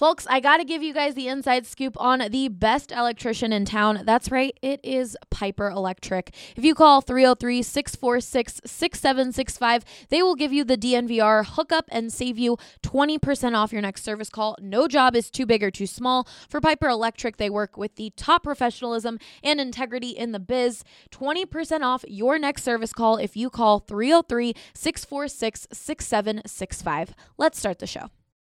Folks, I got to give you guys the inside scoop on the best electrician in town. That's right, it is Piper Electric. If you call 303-646-6765, they will give you the DNVR hookup and save you 20% off your next service call. No job is too big or too small. For Piper Electric, they work with the top professionalism and integrity in the biz. 20% off your next service call if you call 303-646-6765. Let's start the show.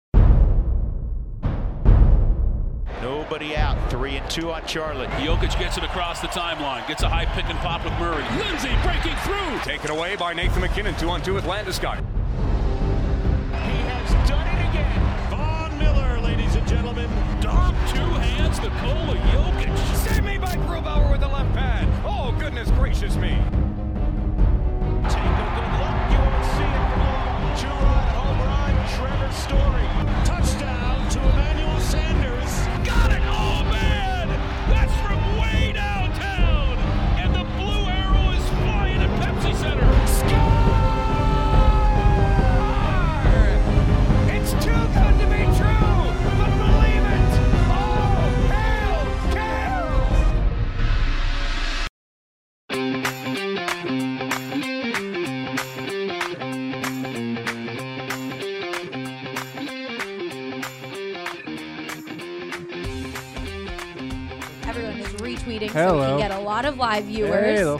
Nobody out. 3-2 on Charlotte. Jokic gets it across the timeline. Gets a high pick and pop with Murray. Lindsay breaking through. Taken away by Nathan McKinnon. 2-on-2 with Landeskog. He has done it again. Von Miller, ladies and gentlemen. Dom, two hands, Nikola Jokic. Save me by Grubauer with the left pad. Oh, goodness gracious me. Take a good look. You won't see it for long. Two-run home run. Trevor Story. Touchdown to Emmanuel Sanders. Got it! Oh, man! That's from way downtown! And the blue arrow is flying at Pepsi Center. Score! It's too good to be true, but believe it. Oh, hail, Everyone is retweeting so we Hello. can get a lot of live viewers. Hello.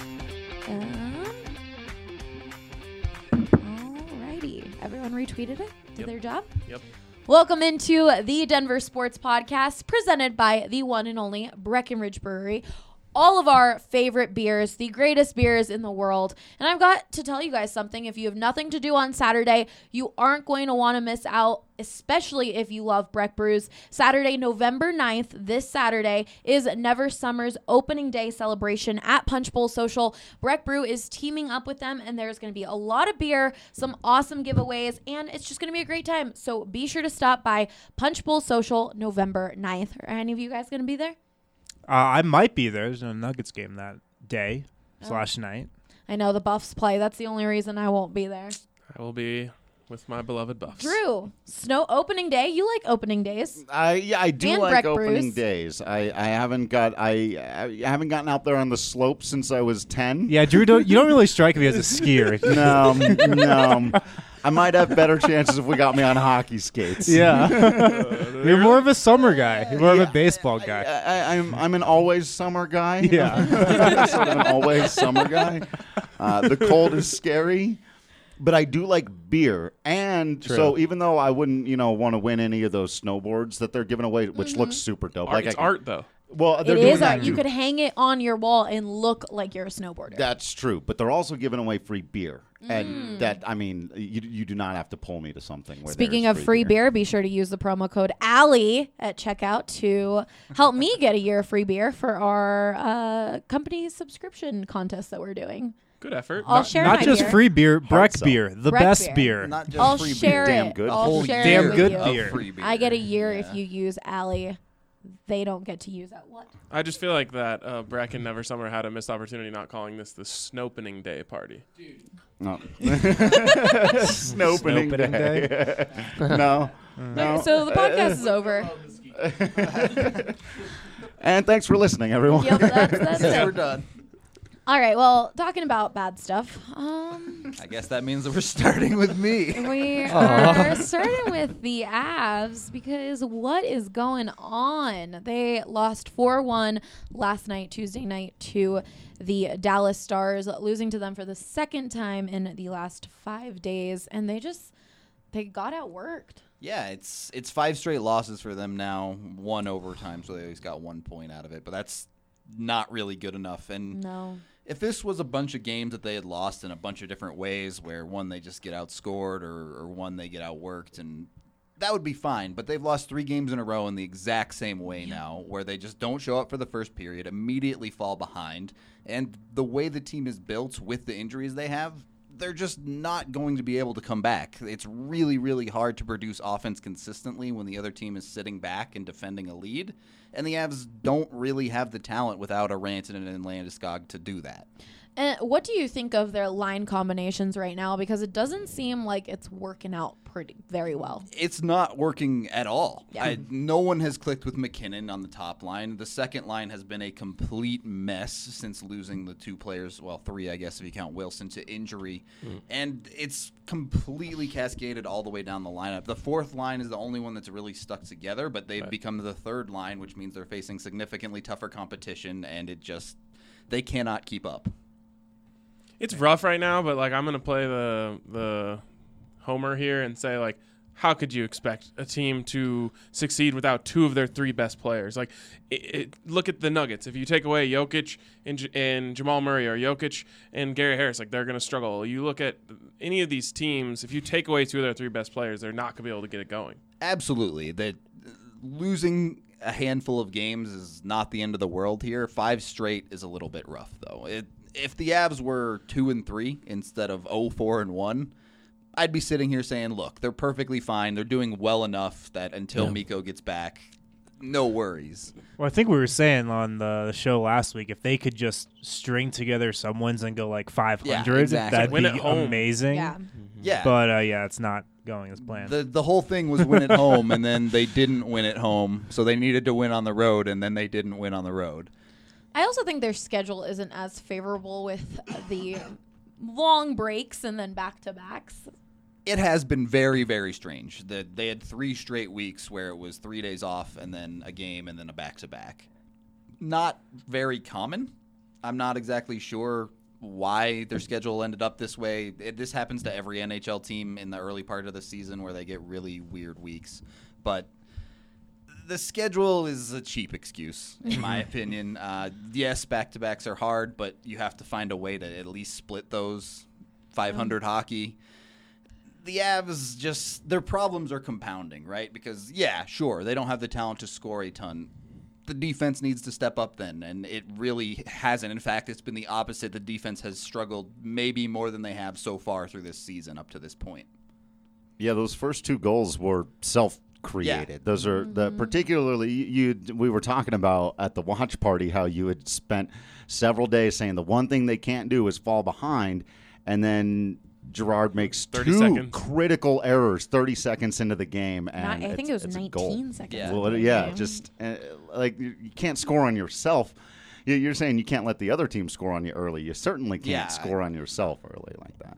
Alrighty. Everyone retweeted it? Did their job? Yep. Welcome into the Denver Sports Podcast presented by the one and only Breckenridge Brewery. All of our favorite beers, the greatest beers in the world. And I've got to tell you guys something. If you have nothing to do on Saturday, you aren't going to want to miss out, especially if you love Breck Brews. Saturday, November 9th, this Saturday, is Never Summer's opening day celebration at Punch Bowl Social. Breck Brew is teaming up with them, and there's going to be a lot of beer, some awesome giveaways, and it's just going to be a great time. So be sure to stop by Punch Bowl Social November 9th. Are any of you guys going to be there? I might be there. There's no Nuggets game that day / night. I know the Buffs play. That's the only reason I won't be there. I will be with my beloved Buffs. Drew, snow opening day. You like opening days. I do And like Breck opening Brews. days. I haven't gotten out there on the slope since I was 10. Yeah, Drew, you don't really strike me as a skier. No. I might have better chances if we got me on hockey skates. Yeah. You're more of a summer guy. You're more of a baseball guy. I'm an always summer guy. Yeah. Sort of an always summer guy. The cold is scary, but I do like beer. And True. so even though I wouldn't, want to win any of those snowboards that they're giving away, which looks super dope. It's art, though. Well, they're It doing is that art. You too. could hang it on your wall and look like you're a snowboarder. That's true, but they're also giving away free beer, and that you do not have to pull me to something. Where Speaking there's of free beer, be sure to use the promo code Allie at checkout to help me get a year of free beer for our company subscription contest that we're doing. Good effort. I'll share Not my just beer. free beer, Breck sell. beer, the Breck best beer. beer. Not just I'll free share beer, it. damn good. I'll share damn it with good you. beer. Free beer. I get a year if you use Allie. They don't get to use that. What? I just feel like that Breck and Never Summer had a missed opportunity not calling this the Snopening Day party. No. Snopening Snopening day. No. Okay, so the podcast is over. And thanks for listening, everyone. Yep, that's it. We're done. All right, well, talking about bad stuff, I guess that means that we're starting with me. we are starting with the Avs because what is going on? They lost 4-1 last night, Tuesday night, to the Dallas Stars, losing to them for the second time in the last 5 days, and they got outworked. Yeah, it's 5 straight losses for them now, 1 overtime, so they always got 1 point out of it. But that's not really good enough. And No. if this was a bunch of games that they had lost in a bunch of different ways, where one they just get outscored or one they get outworked, and that would be fine. But they've lost 3 games in a row in the exact same way now, where they just don't show up for the first period, immediately fall behind. And the way the team is built with the injuries they have, they're just not going to be able to come back. It's really, really hard to produce offense consistently when the other team is sitting back and defending a lead. And the Avs don't really have the talent without a Rantanen and Landeskog to do that. And what do you think of their line combinations right now? Because it doesn't seem like it's working out very well. It's not working at all. Yeah. No one has clicked with McKinnon on the top line. The second line has been a complete mess since losing the 2 players, well, 3, I guess, if you count Wilson, to injury. And it's completely cascaded all the way down the lineup. The fourth line is the only one that's really stuck together, but they've become the third line, which means they're facing significantly tougher competition, and they cannot keep up. It's rough right now, but like I'm gonna play the homer here and say, like, how could you expect a team to succeed without 2 of their 3 best players? Like, look at the Nuggets. If you take away Jokic and Jamal Murray, or Jokic and Gary Harris, like, they're gonna struggle. You look at any of these teams, if you take away 2 of their 3 best players, they're not gonna be able to get it going. Absolutely. That losing a handful of games is not the end of the world here. 5 straight is a little bit rough, though. If the Avs were 2-3 instead of 0-4-1, I'd be sitting here saying, look, they're perfectly fine. They're doing well enough that until Mikko gets back, no worries. Well, I think we were saying on the show last week, if they could just string together some wins and go like 500, exactly. that'd Win be at home. amazing. Yeah. Yeah. But it's not going as planned. The whole thing was win at home, and then they didn't win at home, so they needed to win on the road, and then they didn't win on the road. I also think their schedule isn't as favorable with the long breaks and then back-to-backs. It has been very, very strange. They had 3 straight weeks where it was 3 days off and then a game and then a back-to-back. Not very common. I'm not exactly sure why their schedule ended up this way. This happens to every NHL team in the early part of the season where they get really weird weeks. But the schedule is a cheap excuse, in my opinion. Yes, back-to-backs are hard, but you have to find a way to at least split those. 500 hockey. The Avs their problems are compounding, right? Because, yeah, sure, they don't have the talent to score a ton. The defense needs to step up then, and it really hasn't. In fact, it's been the opposite. The defense has struggled maybe more than they have so far through this season up to this point. Yeah, those first 2 goals were self-created. Yeah. Those are particularly we were talking about at the watch party how you had spent several days saying the one thing they can't do is fall behind, and then Girard makes 30 2 seconds. critical errors 30 seconds into the game, and I think it was it's a goal. 19 seconds. Yeah. into Well, the yeah, game. just like you can't score on yourself. You're saying you can't let the other team score on you early. You certainly can't score on yourself early like that.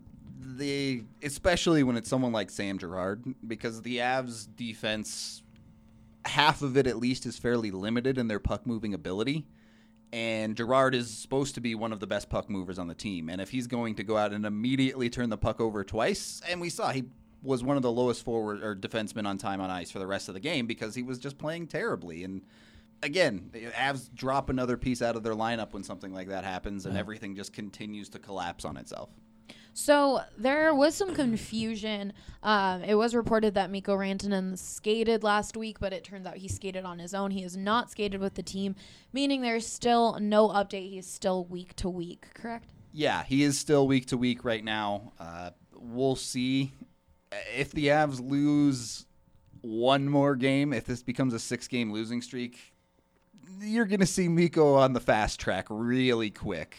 Especially when it's someone like Sam Girard, because the Avs defense, half of it at least, is fairly limited in their puck moving ability. And Girard is supposed to be one of the best puck movers on the team. And if he's going to go out and immediately turn the puck over twice, and we saw he was one of the lowest forward or defensemen on time on ice for the rest of the game because he was just playing terribly. And again, the Avs drop another piece out of their lineup when something like that happens, and everything just continues to collapse on itself. So there was some confusion. It was reported that Mikko Rantanen skated last week, but it turns out he skated on his own. He has not skated with the team, meaning there's still no update. He's still week to week, correct? Yeah, he is still week to week right now. We'll see if the Avs lose one more game, if this becomes a 6-game losing streak, you're going to see Mikko on the fast track really quick.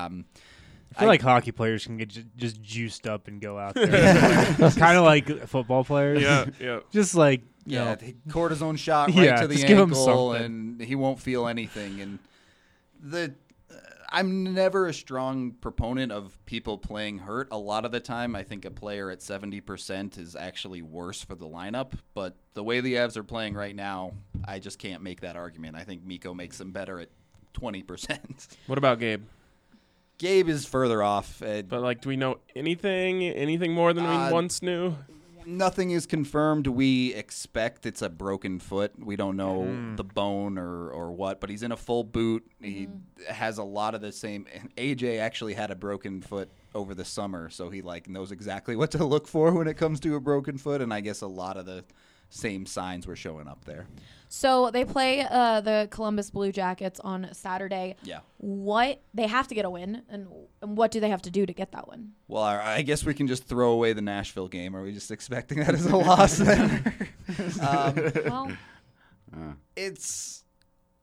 I feel like hockey players can get just juiced up and go out there. Kind of like football players. Yeah. Just like, you Yeah, know, the cortisone shot right Yeah, to the just give him ankle, something. and he won't feel anything. And I'm never a strong proponent of people playing hurt. A lot of the time, I think a player at 70% is actually worse for the lineup. But the way the Avs are playing right now, I just can't make that argument. I think Mikko makes them better at 20%. What about Gabe? Gabe is further off. But like, do we know anything more than we once knew? Nothing is confirmed. We expect it's a broken foot. We don't know the bone or what, but he's in a full boot. He has a lot of the same. AJ actually had a broken foot over the summer, so he knows exactly what to look for when it comes to a broken foot, and I guess a lot of the same signs were showing up there. So they play the Columbus Blue Jackets on Saturday. Yeah. They have to get a win, and what do they have to do to get that win? Well, I guess we can just throw away the Nashville game. Are we just expecting that as a loss then? Well, It's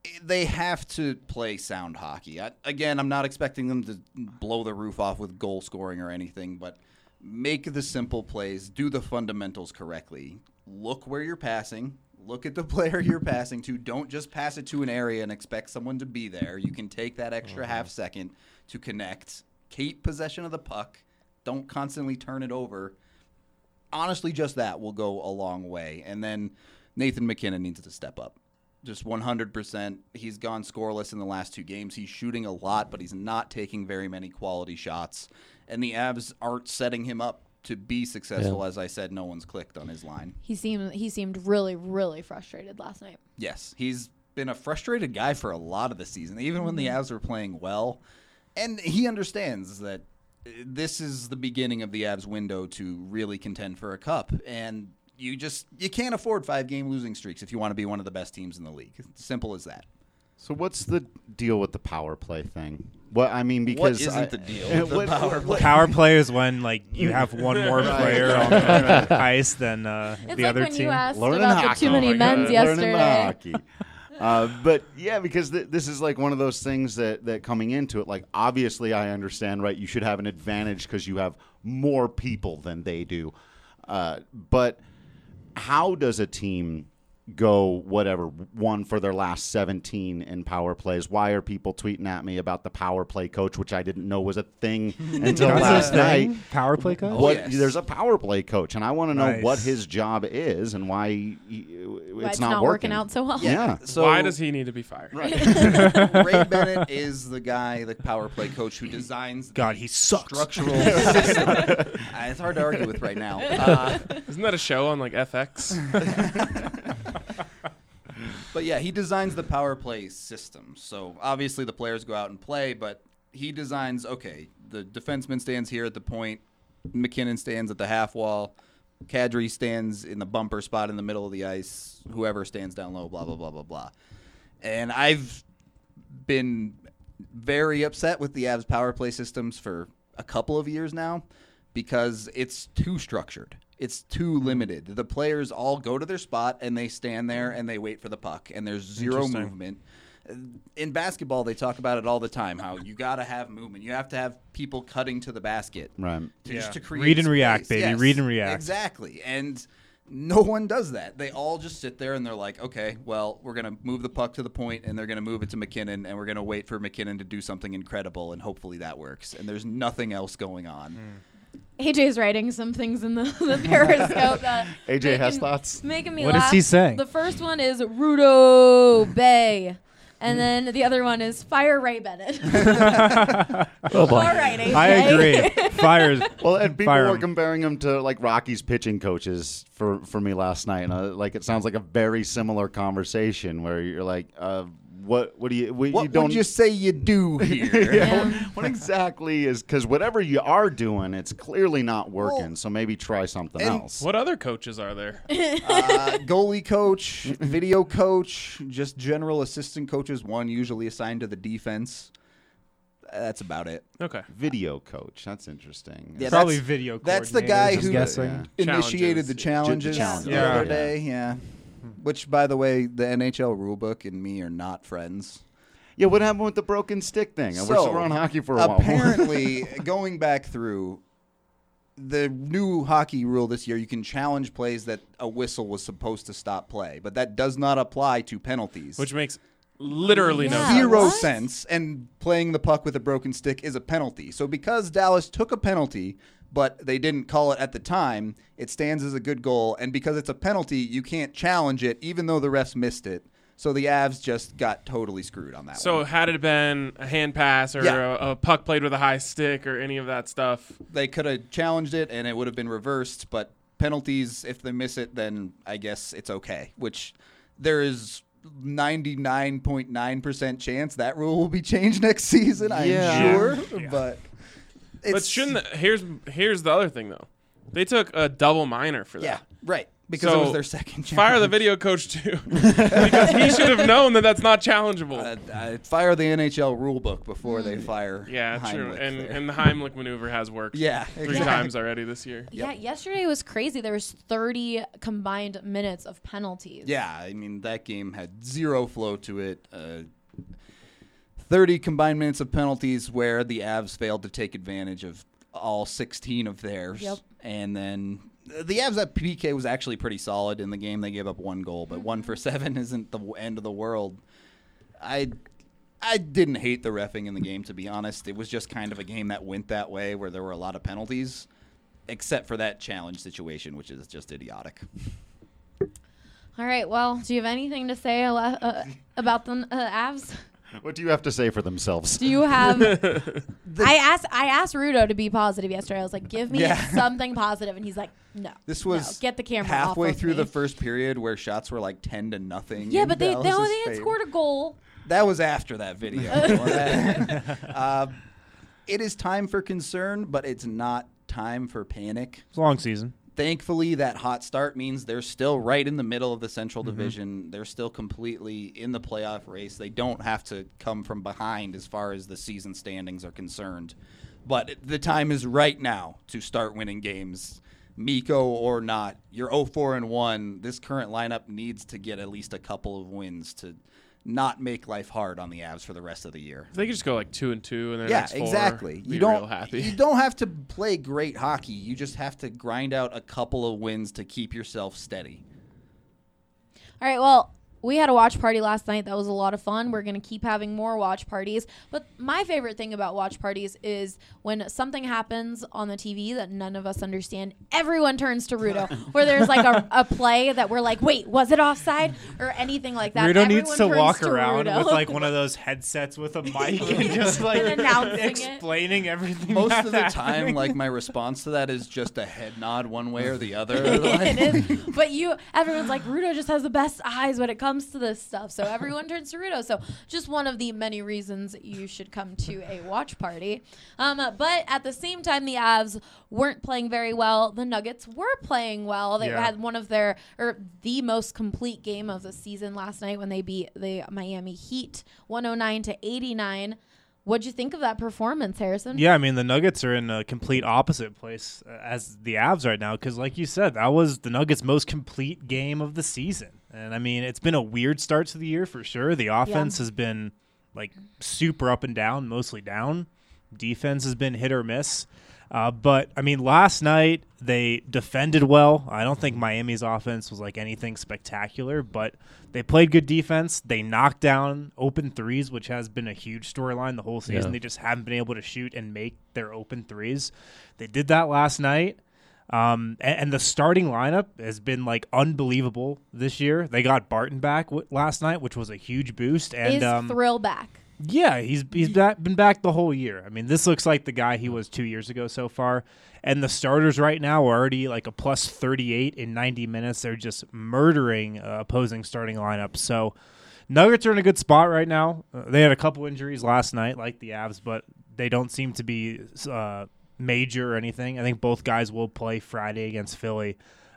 They have to play sound hockey. Again, I'm not expecting them to blow the roof off with goal scoring or anything, but make the simple plays, do the fundamentals correctly. Look where you're passing. Look at the player you're passing to. Don't just pass it to an area and expect someone to be there. You can take that extra half second to connect. Keep possession of the puck. Don't constantly turn it over. Honestly, just that will go a long way. And then Nathan MacKinnon needs to step up. Just 100%. He's gone scoreless in the last 2 games. He's shooting a lot, but he's not taking very many quality shots. And the Avs aren't setting him up to be successful. Yeah. As I said, no one's clicked on his line. He seemed really, really frustrated last night. Yes, he's been a frustrated guy for a lot of the season, even when the Avs were playing well. And he understands that this is the beginning of the Avs window to really contend for a cup. And you can't afford 5-game losing streaks if you want to be one of the best teams in the league. It's simple as that. So what's the deal with the power play thing? Well, I mean, because What isn't the deal with the power play? Power play is when like you have one more player on the ice than the It's like other when team. you asked Learning about hockey. the too many Oh my men's God. Learning yesterday. hockey. But yeah, because this is like one of those things that coming into it, like obviously I understand, right? You should have an advantage because you have more people than they do. But how does a team go whatever one for their last 17 in power plays? Why are people tweeting at me about the power play coach, which I didn't know was a thing until last night? Power play coach. What, yes. There's a power play coach, and I want to know Nice. what his job is and why Why it's not working out so well. Yeah. So Why does he need to be fired? Ray Bennett is the guy, the power play coach, who designs God, the he sucks. structural system. It's hard to argue with right now. Isn't that a show on like FX? But yeah, he designs the power play system. So obviously the players go out and play, but he designs, okay, the defenseman stands here at the point, MacKinnon stands at the half wall, Kadri stands in the bumper spot in the middle of the ice, whoever stands down low, blah, blah, blah, blah, blah. And I've been very upset with the Avs power play systems for a couple of years now because it's too structured. It's too limited. The players all go to their spot and they stand there and they wait for the puck, and there's zero Interesting. movement. In basketball, they talk about it all the time, how you got to have movement. You have to have people cutting to the basket. Right. Just to create Read and space. react, baby. Yes, Read and react. Exactly. And no one does that. They all just sit there and they're like, okay, well, we're going to move the puck to the point and they're going to move it to MacKinnon and we're going to wait for MacKinnon to do something incredible and hopefully that works. And there's nothing else going on. AJ's writing some things in the Periscope that AJ has thoughts? making me What laugh. is he saying? The first one is Rudo Bay. And then the other one is Fire Ray Bennett. Oh boy. All right, AJ. I agree. Fires. Well, and people Fire were 'em. comparing him to like Rocky's pitching coaches for me last night, and like it sounds like a very similar conversation where you're like, what do you? What you don't would you say you do here? Yeah. What exactly is? Because whatever you are doing, it's clearly not working. Well, so maybe try something and else. What other coaches are there? Goalie coach, video coach, just general assistant coaches, one usually assigned to the defense. That's about it. Okay. Video coach. That's interesting. Yeah, Probably that's- video. That's the guy coordinators, I'm who guessing. initiated the challenges Challenges. the Yeah. other day. Yeah. Which, by the way, the NHL rulebook and me are not friends. Yeah. What happened with the broken stick thing? We're So, still on hockey for a while. Apparently, going back through the new hockey rule this year, you can challenge plays that a whistle was supposed to stop play, but that does not apply to penalties. Which makes literally no Yeah. sense. Zero What? sense, and playing the puck with a broken stick is a penalty. So because Dallas took a penalty, but they didn't call it at the time, it stands as a good goal, and because it's a penalty, you can't challenge it even though the refs missed it. So the Avs just got totally screwed on that So one. had it been a hand pass or Yeah. a puck played with a high stick or any of that stuff, They could have challenged it and it would have been reversed, but penalties, if they miss it, then I guess it's okay, which there is 99.9% chance that rule will be changed next season, I'm sure. But it's, but shouldn't here's the other thing though. They took a double minor for that. Yeah, right. Because So, it was their second challenge. Fire the video coach too, because he should have known that that's not challengeable. Fire the NHL rulebook before they fire Yeah, true. Heimlich And there. and the Heimlich maneuver has worked. Yeah, 3 exactly. times already this year. Yeah, yesterday was crazy. There was 30 combined minutes of penalties. Yeah, I mean, that game had zero flow to it. 30 combined minutes of penalties where the Avs failed to take advantage of all 16 of theirs. Yep. And then the Avs at PK was actually pretty solid in the game. They gave up 1 goal, but 1 for 7 isn't the end of the world. I didn't hate the reffing in the game, to be honest. It was just kind of a game that went that way where there were a lot of penalties, except for that challenge situation, which is just idiotic. All right. Well, do you have anything to say about the Avs? What do you have to say for themselves? Do you have? I asked Rudo to be positive yesterday. I was like, "Give me something positive," and he's like, "No." This was no, get the camera halfway off of through me. the first period where shots were like 10-0. Yeah, in but they Dallas's had favor. scored a goal. That was after that video. It is time for concern, but it's not time for panic. It's a long season. Thankfully, that hot start means they're still right in the middle of the Central Division. They're still completely in the playoff race. They don't have to come from behind as far as the season standings are concerned. But the time is right now to start winning games. Mikko or not, you're 0-4-1. This current lineup needs to get at least a couple of wins to not make life hard on the Avs for the rest of the year. If they could just go like 2-2 and their Yeah, next 4, exactly. be You don't real happy. You don't have to play great hockey. You just have to grind out a couple of wins to keep yourself steady. All right. Well, we had a watch party last night. That was a lot of fun. We're going to keep having more watch parties. But my favorite thing about watch parties is when something happens on the TV that none of us understand, everyone turns to Rudo. Where there's like a play that we're like, wait, was it offside? Or anything like that. Rudo needs to Everyone walk turns to around Rudo. with like one of those headsets with a mic and just like And announcing it. explaining everything. Most that's of the happening. time, like my response to that is just a head nod one way or the other. It is. But everyone's like, Rudo just has the best eyes when it comes to this stuff. So everyone turns to Rudo. So just one of the many reasons you should come to a watch party. But at the same time, the Avs weren't playing very well. The Nuggets were playing well. They had one of the most complete game of the season last night when they beat the Miami Heat 109-89. What'd you think of that performance, Harrison? Yeah, I mean, the Nuggets are in a complete opposite place as the Avs right now because, like you said, that was the Nuggets' most complete game of the season. And, I mean, it's been a weird start to the year for sure. The offense has been, like, super up and down, mostly down. Defense has been hit or miss. But, I mean, last night they defended well. I don't think Miami's offense was, like, anything spectacular, but they played good defense. They knocked down open threes, which has been a huge storyline the whole season. Yeah. They just haven't been able to shoot and make their open threes. They did that last night. And the starting lineup has been, like, unbelievable this year. They got Barton back last night, which was a huge boost. And Is Thrill back? yeah, he's been back the whole year. I mean, this looks like the guy he was 2 years ago so far. And the starters right now are already like a plus 38 in 90 minutes. They're just murdering opposing starting lineups. So Nuggets are in a good spot right now. They had a couple injuries last night, like the Avs, but they don't seem to be major or anything. I think both guys will play Friday against Philly.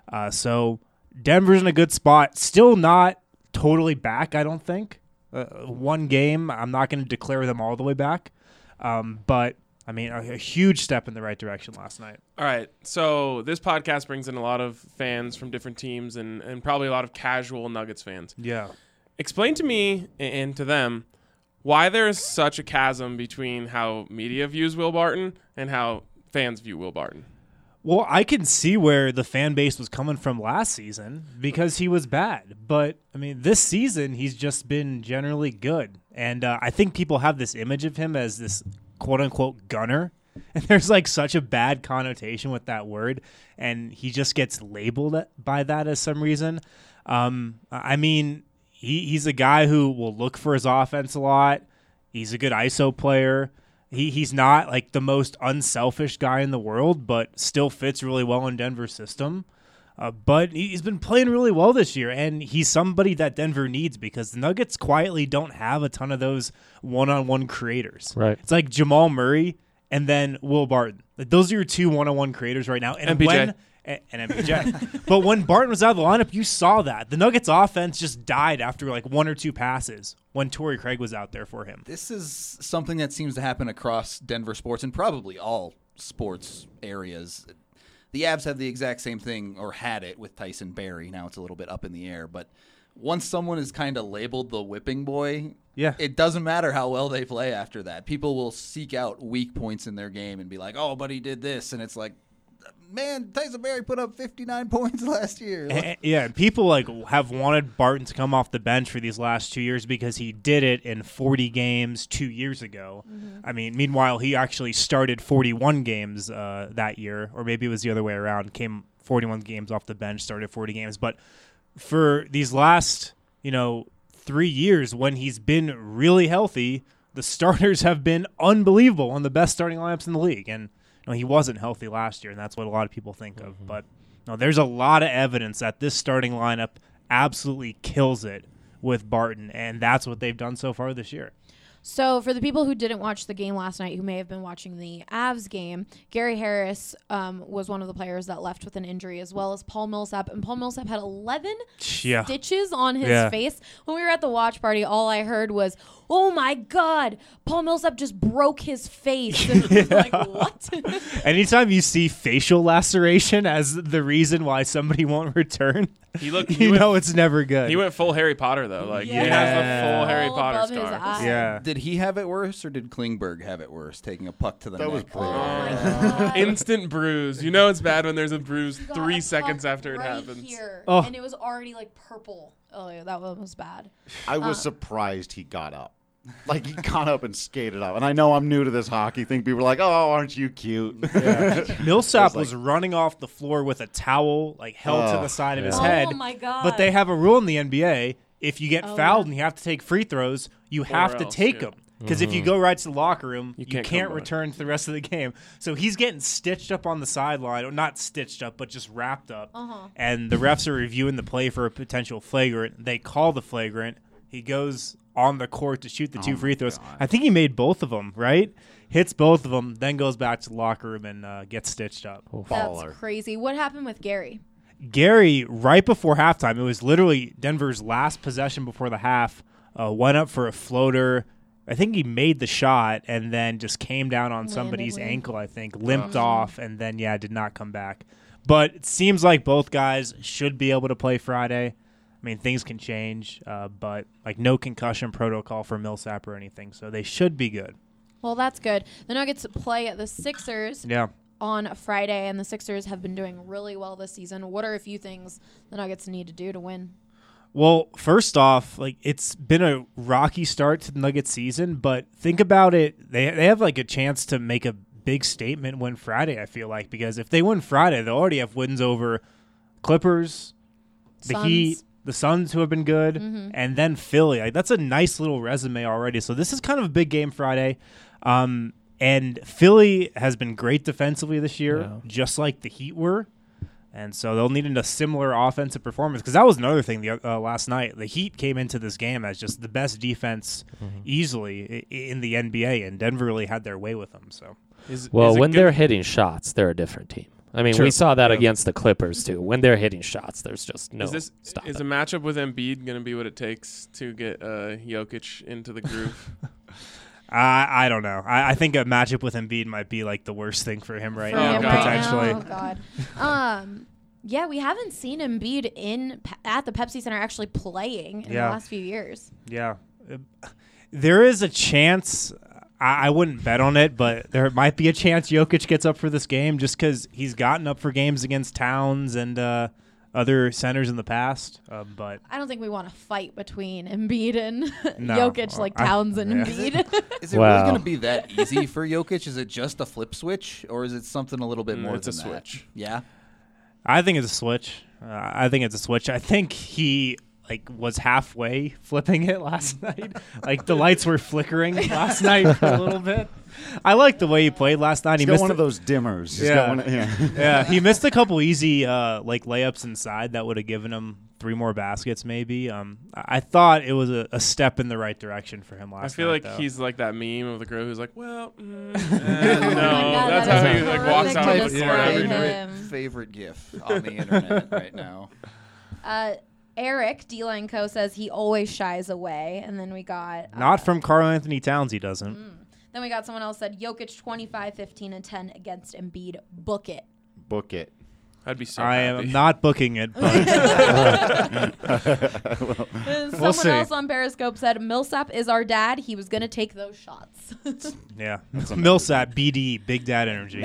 So Denver's in a good spot. Still not totally back, I don't think. One game, I'm not going to declare them all the way back. But, I mean, a huge step in the right direction last night. All right, so this podcast brings in a lot of fans from different teams and probably a lot of casual Nuggets fans. Yeah. Explain to me and to them why there is such a chasm between how media views Will Barton and how fans view Will Barton. Well, I can see where the fan base was coming from last season because he was bad. But, I mean, this season he's just been generally good. And I think people have this image of him as this quote-unquote gunner. And there's, like, such a bad connotation with that word. And he just gets labeled by that as some reason. I mean, he's a guy who will look for his offense a lot. He's a good ISO player. He's not like the most unselfish guy in the world, but still fits really well in Denver's system. But he's been playing really well this year, and he's somebody that Denver needs because the Nuggets quietly don't have a ton of those one-on-one creators. Right. It's like Jamal Murray and then Will Barton. Like, those are your two one-on-one creators right now. And MPJ. when and MPJ. But when Barton was out of the lineup, you saw that. The Nuggets offense just died after like 1 or 2 passes when Torrey Craig was out there for him. This is something that seems to happen across Denver sports and probably all sports areas. The Avs have the exact same thing, or had it, with Tyson Barrie. Now it's a little bit up in the air. But once someone is kind of labeled the whipping boy, it doesn't matter how well they play after that. People will seek out weak points in their game and be like, oh, but he did this. And it's like, man, Tyson Barrie put up 59 points last year. Yeah, people like have wanted Barton to come off the bench for these last 2 years because he did it in 40 games 2 years ago. I mean, meanwhile, he actually started 41 games that year, or maybe it was the other way around. Came 41 games off the bench, started 40 games. But for these last, 3 years when he's been really healthy, the starters have been unbelievable on the best starting lineups in the league. And he wasn't healthy last year, and that's what a lot of people think of. But there's a lot of evidence that this starting lineup absolutely kills it with Barton, and that's what they've done so far this year. So for the people who didn't watch the game last night, who may have been watching the Avs game, Gary Harris was one of the players that left with an injury, as well as Paul Millsap. And Paul Millsap had 11 stitches on his face. When we were at the watch party, all I heard was, oh, my God, Paul Millsap just broke his face. And I was like, what? Anytime you see facial laceration as the reason why somebody won't return, it's never good. He went full Harry Potter, though. Like, he has the full Harry Potter scar. Yeah. Did he have it worse, or did Klingberg have it worse, taking a puck to the neck? was brutal. Instant bruise. You know it's bad when there's a bruise He got 3 a seconds puck after it right happens. Here, Oh. and it was already like purple. Oh, yeah, that one was bad. I was surprised he got up. Like, he got up and skated up. And I know I'm new to this hockey thing. People are like, oh, aren't you cute? Millsap was running off the floor with a towel held to the side of his head. Oh, my God. But they have a rule in the NBA. If you get fouled and you have to take free throws, you have to take them. Because if you go right to the locker room, you can't return to the rest of the game. So he's getting stitched up on the sideline, or not stitched up, but just wrapped up. And the refs are reviewing the play for a potential flagrant. They call the flagrant. He goes on the court to shoot the 2 free throws. God. I think he made both of them, right? Hits both of them, then goes back to the locker room and gets stitched up. That's crazy. What happened with Gary? Gary, right before halftime, it was literally Denver's last possession before the half, went up for a floater. I think he made the shot and then just came down on somebody's ankle, I think, limped off, and then, did not come back. But it seems like both guys should be able to play Friday. I mean, things can change, but no concussion protocol for Millsap or anything, so they should be good. Well, that's good. The Nuggets play the Sixers on Friday, and the Sixers have been doing really well this season. What are a few things the Nuggets need to do to win? Well, first off, it's been a rocky start to the Nuggets season, but think about it. They have a chance to make a big statement win Friday, I feel like, because if they win Friday, they'll already have wins over Clippers, the Heat, the Suns, who have been good, and then Philly. That's a nice little resume already. So this is kind of a big game Friday. And Philly has been great defensively this year, just like the Heat were. And so they'll need a similar offensive performance, because that was another thing last night. The Heat came into this game as just the best defense easily in the NBA, and Denver really had their way with them. So, when they're hitting shots, they're a different team. I mean, True. we saw that against the Clippers, too. When they're hitting shots, there's just no Is a matchup with Embiid going to be what it takes to get Jokic into the groove? I don't know. I think a matchup with Embiid might be the worst thing for him now, potentially. Oh, God. Yeah, we haven't seen Embiid at the Pepsi Center actually playing in the last few years. Yeah. There is a chance. I wouldn't bet on it, but there might be a chance Jokic gets up for this game just because he's gotten up for games against Towns and other centers in the past. But I don't think we want to fight between Embiid and Jokic like Towns and Embiid. Is it really going to be that easy for Jokic? Is it just a flip switch, or is it something a little bit more it's than a that? switch. Yeah? I think it's a switch. I think he was halfway flipping it last night. The lights were flickering last night for a little bit. I like the way he played last night. He missed one of those dimmers. Yeah, he missed a couple easy layups inside that would have given him 3 more baskets maybe. I thought it was a step in the right direction for him last night. I feel like though. he's like that meme of the girl who's like, well, no. Oh my God, That's that how is he like horrific walks to out of the describe court every him. night. Favorite GIF on the internet right now. Eric D-Line Co. says he always shies away. And then we got... Not from Karl Anthony Towns, he doesn't. Then we got someone else said Jokic 25, 15, and 10 against Embiid. Book it. Book it. I'd be so I happy. am not booking it, but Someone else on Periscope said Millsap is our dad. He was going to take those shots. yeah. Millsap, BD, Big Dad Energy.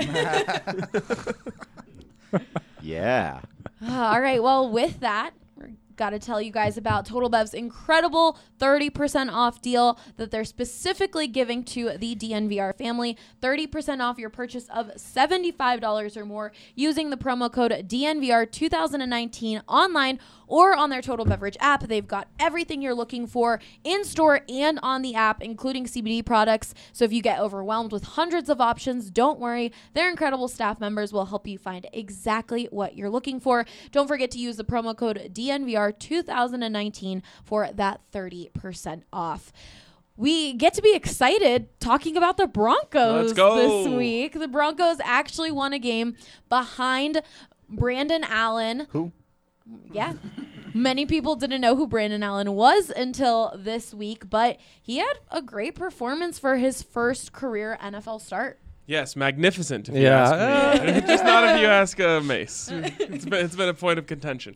Yeah. All right. Well, with that, we're got to tell you guys about Total Bev's incredible 30% off deal that they're specifically giving to the DNVR family. 30% off your purchase of $75 or more using the promo code DNVR2019 online or on their Total Beverage app. They've got everything you're looking for in store and on the app, including CBD products. So if you get overwhelmed with hundreds of options, don't worry. Their incredible staff members will help you find exactly what you're looking for. Don't forget to use the promo code DNVR2019 for that 30% off. We get to be excited talking about the Broncos Let's go. this week. The Broncos actually won a game behind Brandon Allen. Who? Yeah. Many people didn't know who Brandon Allen was until this week, but he had a great performance for his first career NFL start. Yes, magnificent if you Yeah. ask me. Just not if you ask Mace. It's been a point of contention.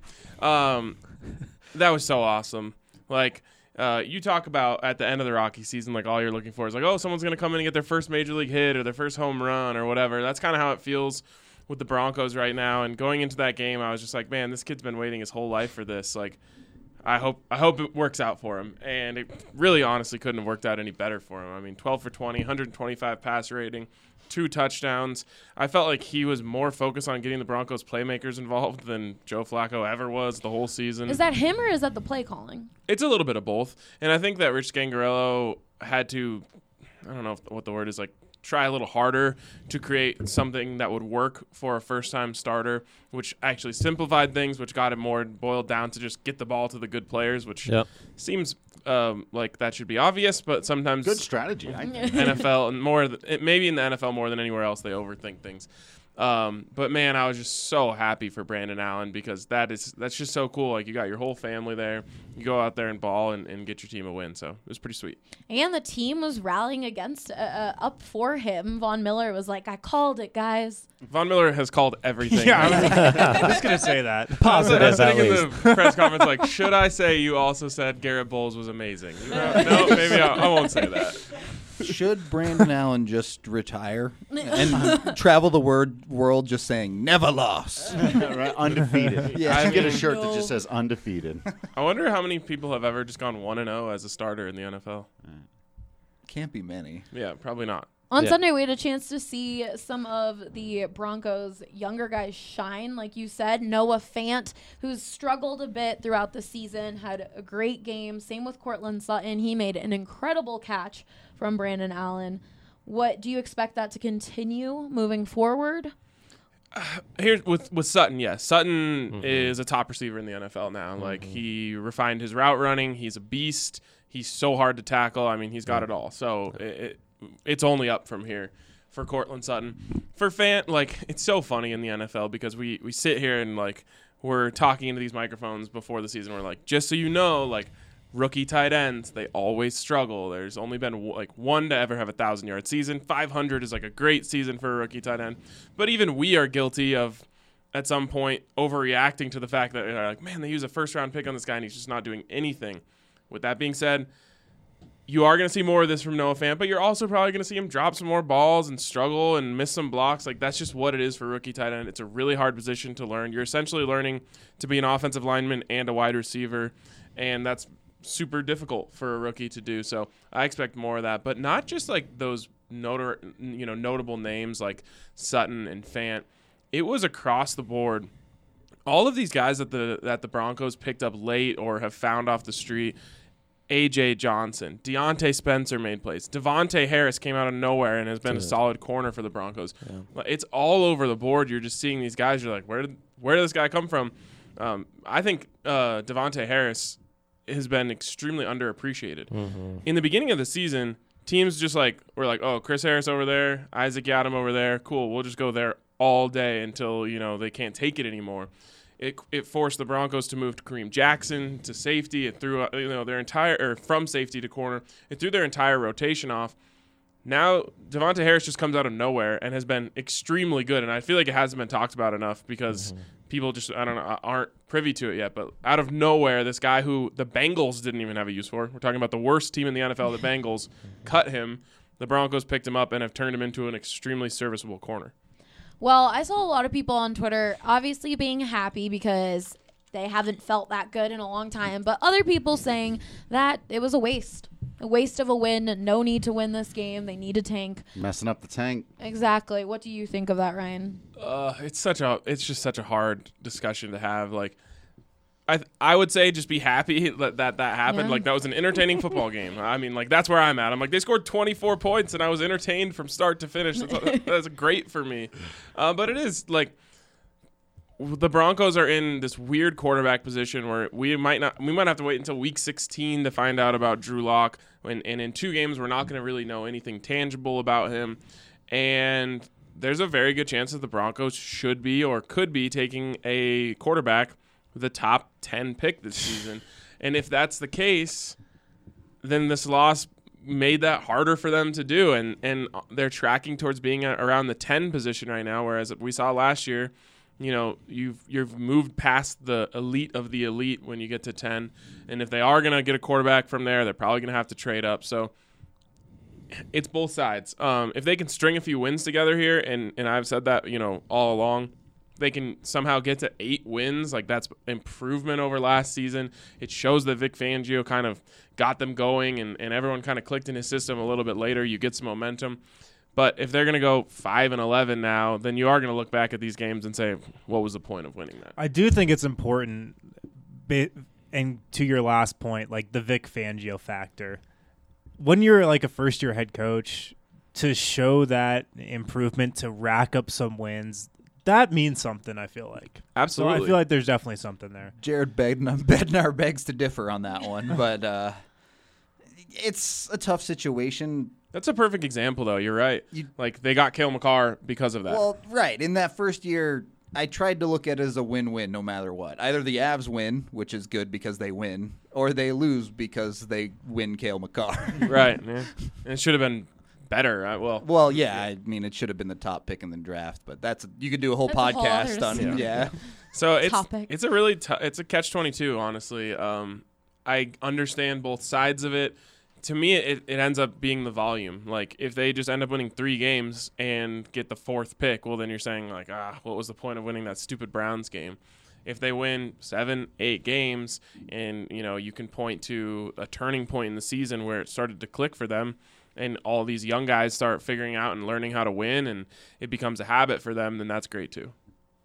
That was so awesome. Like, you talk about at the end of the Rocky season, like all you're looking for is like, oh, someone's going to come in and get their first major league hit or their first home run or whatever. That's kind of how it feels with the Broncos right now. And going into that game, I was just like, man, this kid's been waiting his whole life for this. Like, I hope it works out for him. And it really honestly couldn't have worked out any better for him. I mean, 12 for 20, 125 pass rating, 2 touchdowns. I felt like he was more focused on getting the Broncos playmakers involved than Joe Flacco ever was the whole season. Is that him or is that the play calling? It's a little bit of both. And I think that Rich Scangarello had to, I don't know what the word is, like, try a little harder to create something that would work for a first-time starter, which actually simplified things, which got it more boiled down to just get the ball to the good players, which seems like that should be obvious, but sometimes Good strategy, I think. NFL and maybe in the NFL more than anywhere else, they overthink things. But man, I was just so happy for Brandon Allen because that's just so cool. Like, you got your whole family there. You go out there and ball and get your team a win. So it was pretty sweet. And the team was rallying against up for him. Von Miller was like, I called it, guys. Von Miller has called everything. Yeah, I was going to say that. I was Positive, at sitting in least. the press conference like, should I say you also said Garrett Bowles was amazing? No, maybe I won't say that. Should Brandon Allen just retire and travel the world just saying never lost? Right? Undefeated. Yeah. I should get a mean, shirt that just says undefeated. I wonder how many people have ever just gone 1-0 as a starter in the NFL. Can't be many. Yeah, probably not. On Sunday, we had a chance to see some of the Broncos' younger guys shine. Like you said, Noah Fant, who's struggled a bit throughout the season, had a great game. Same with Cortland Sutton. He made an incredible catch from Brandon Allen. What do you expect that to continue moving forward? Here with Sutton, yes. Sutton is a top receiver in the NFL now. Like, he refined his route running. He's a beast. He's so hard to tackle. I mean, he's got it all. So it's only up from here for Cortland Sutton. For Fant, like, it's so funny in the NFL because we sit here and, like, we're talking into these microphones before the season. We're like, just so you know, like, rookie tight ends, they always struggle. There's only been like one to ever have a 1,000-yard season. 500 is like a great season for a rookie tight end. But even we are guilty of, at some point, overreacting to the fact that like, man, they use a first-round pick on this guy and he's just not doing anything. With that being said, you are going to see more of this from Noah Fant, but you're also probably going to see him drop some more balls and struggle and miss some blocks. Like, that's just what it is for rookie tight end. It's a really hard position to learn. You're essentially learning to be an offensive lineman and a wide receiver, and that's super difficult for a rookie to do. So I expect more of that, but not just like those notable names like Sutton and Fant. It was across the board. All of these guys that the Broncos picked up late or have found off the street. A.J. Johnson, Deontay Spencer made plays. Devontae Harris came out of nowhere and has been a solid corner for the Broncos. Yeah. It's all over the board. You're just seeing these guys. You're like, where did this guy come from? I think Devontae Harris has been extremely underappreciated. In the beginning of the season, teams just were like, oh, Chris Harris over there, Isaac Yiadom over there, cool, we'll just go there all day until they can't take it anymore. It forced the Broncos to move to Kareem Jackson to safety. It threw their entire from safety to corner. It threw their entire rotation off. Now Devontae Harris just comes out of nowhere and has been extremely good, and I feel like it hasn't been talked about enough because people just aren't privy to it yet. But out of nowhere, this guy who the Bengals didn't even have a use for. We're talking about the worst team in the NFL. The Bengals cut him. The Broncos picked him up and have turned him into an extremely serviceable corner. Well, I saw a lot of people on Twitter obviously being happy because they haven't felt that good in a long time, but other people saying that it was a waste of a win. No need to win this game. They need to tank. Messing up the tank. Exactly. What do you think of that, Ryan? It's just such a hard discussion to have. Like, I would say just be happy that happened. Yeah. Like, that was an entertaining football game. I mean, like, that's where I'm at. I'm like, they scored 24 points, and I was entertained from start to finish. That's great for me. But it is, like, the Broncos are in this weird quarterback position where we might have to wait until week 16 to find out about Drew Lock. And in 2 games, we're not going to really know anything tangible about him. And there's a very good chance that the Broncos should be or could be taking a quarterback with the top 10 pick this season. And if that's the case, then this loss made that harder for them to do. And they're tracking towards being around the 10 position right now, whereas we saw last year, you've moved past the elite of the elite when you get to 10. And if they are going to get a quarterback from there, they're probably going to have to trade up. So it's both sides. If they can string a few wins together here, and I've said that, all along, they can somehow get to 8 wins. Like, that's improvement over last season. It shows that Vic Fangio kind of got them going and everyone kind of clicked in his system a little bit later. You get some momentum. But if they're going to go 5-11 now, then you are going to look back at these games and say, what was the point of winning that? I do think it's important, and to your last point, like the Vic Fangio factor. When you're like a first-year head coach, to show that improvement, to rack up some wins, that means something, I feel like. Absolutely. So I feel like there's definitely something there. Jared Bednar begs to differ on that one, but it's a tough situation. That's a perfect example, though. You're right. Like, they got Cale McCarr because of that. Well, right. In that first year, I tried to look at it as a win-win no matter what. Either the Avs win, which is good because they win, or they lose because they win Cale McCarr. Right. Yeah. And it should have been better. Well, yeah. I mean, it should have been the top pick in the draft, but you could do a whole That's a whole podcast other on discussion. yeah. So Topic. it's a really it's a catch-22, honestly. I understand both sides of it. To me, it ends up being the volume. Like, if they just end up winning 3 games and get the 4th pick, well, then you're saying, like, what was the point of winning that stupid Browns game? If they win 7, 8 games and, you can point to a turning point in the season where it started to click for them and all these young guys start figuring out and learning how to win and it becomes a habit for them, then that's great too.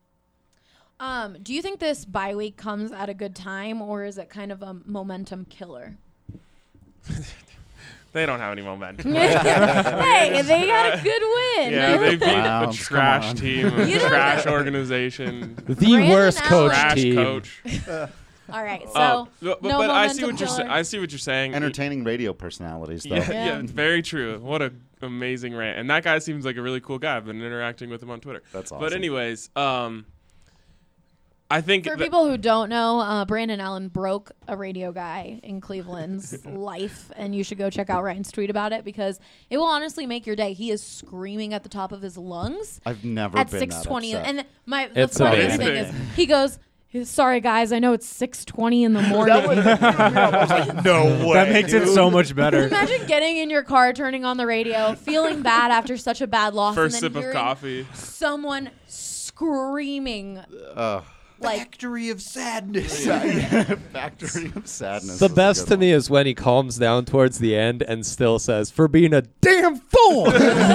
Do you think this bye week comes at a good time, or is it kind of a momentum killer? They don't have any momentum. Hey, they got a good win. Yeah, they beat Wow, a trash team, a You don't- trash organization, The Brandon worst coach trash team. coach. All right, so But no I see momentum what you're killer. I see what you're saying. Entertaining radio personalities, though. Yeah, Yeah. it's very true. What a amazing rant. And that guy seems like a really cool guy. I've been interacting with him on Twitter. That's awesome. But anyways, I think For that- people who don't know, Brandon Allen broke a radio guy in Cleveland's life, and you should go check out Ryan's tweet about it because it will honestly make your day. He is screaming at the top of his lungs I've never at been 6:20, that upset. and the It's funniest amazing. thing is he goes, "Sorry guys, I know it's 6:20 in the morning." No way. That makes it so much better. Imagine getting in your car, turning on the radio, feeling bad after such a bad loss, first and then sip of hearing coffee. someone screaming. Like, Factory of sadness. Factory of sadness. The is a best good to one. me is when he calms down towards the end and still says, "For being a damn fool."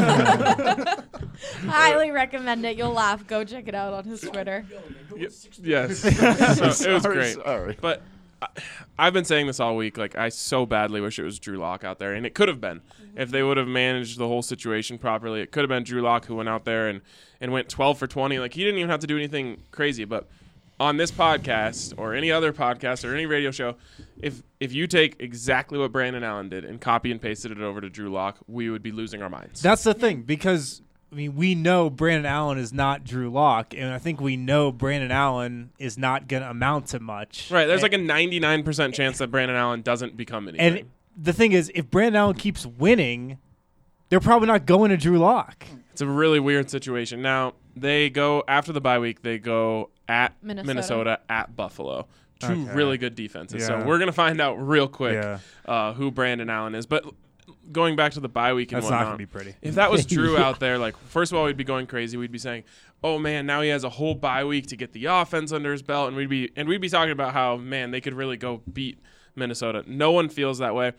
highly recommend it. You'll laugh. Go check it out on his Twitter. Yes. So it was Sorry, great. sorry. But I've been saying this all week. Like, I so badly wish it was Drew Lock out there. And it could have been. If they would have managed the whole situation properly, it could have been Drew Lock who went out there and went 12 for 20. Like, he didn't even have to do anything crazy. But on this podcast or any other podcast or any radio show, if you take exactly what Brandon Allen did and copy and pasted it over to Drew Lock, we would be losing our minds. That's the thing, because I mean, we know Brandon Allen is not Drew Lock, and I think we know Brandon Allen is not going to amount to much. Right. There's like a 99% chance that Brandon Allen doesn't become anything. And the thing is, if Brandon Allen keeps winning, they're probably not going to Drew Lock. It's a really weird situation. Now, they go, after the bye week, they go at Minnesota at Buffalo. Two really good defenses. Yeah. So we're going to find out real quick Yeah. who Brandon Allen is. But going back to the bye week and That's not whatnot, going to be pretty. if that was Drew out there, like, first of all, we'd be going crazy. We'd be saying, oh, man, now he has a whole bye week to get the offense under his belt. And we'd be talking about how, man, they could really go beat Minnesota. No one feels that way.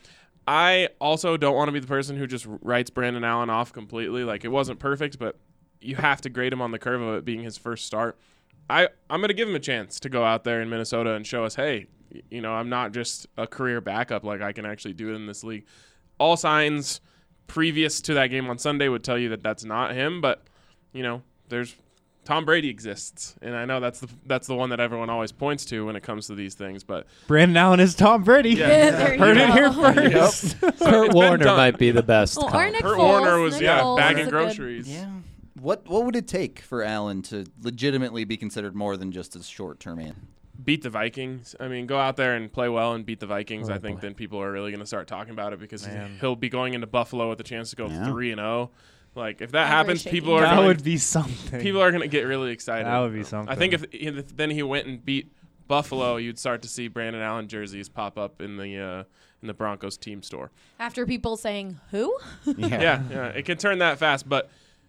I also don't want to be the person who just writes Brandon Allen off completely. Like, it wasn't perfect, but you have to grade him on the curve of it being his first start. I'm going to give him a chance to go out there in Minnesota and show us, hey, you know, I'm not just a career backup. Like, I can actually do it in this league. All signs previous to that game on Sunday would tell you that that's not him, but, you know, there's Tom Brady exists, and I know that's the one that everyone always points to when it comes to these things. But Brandon Allen is Tom Brady. Yeah. There you Heard it go. here first. Kurt Warner might be the best. Oh, or comp. Nick Kurt Foles. Warner was Nick Foles bagging is a groceries. Yeah. What would it take for Allen to legitimately be considered more than just a short-term man? Beat the Vikings. I mean, go out there and play well and beat the Vikings. I think then people are really going to start talking about it because he'll be going into Buffalo with a chance to go 3-0. Like, if that happens, shaking. people are That gonna, would be something. people are going to get really excited. That would be something. I think if then he went and beat Buffalo, you'd start to see Brandon Allen jerseys pop up in the Broncos team store. After people saying, who? Yeah, it can turn that fast. But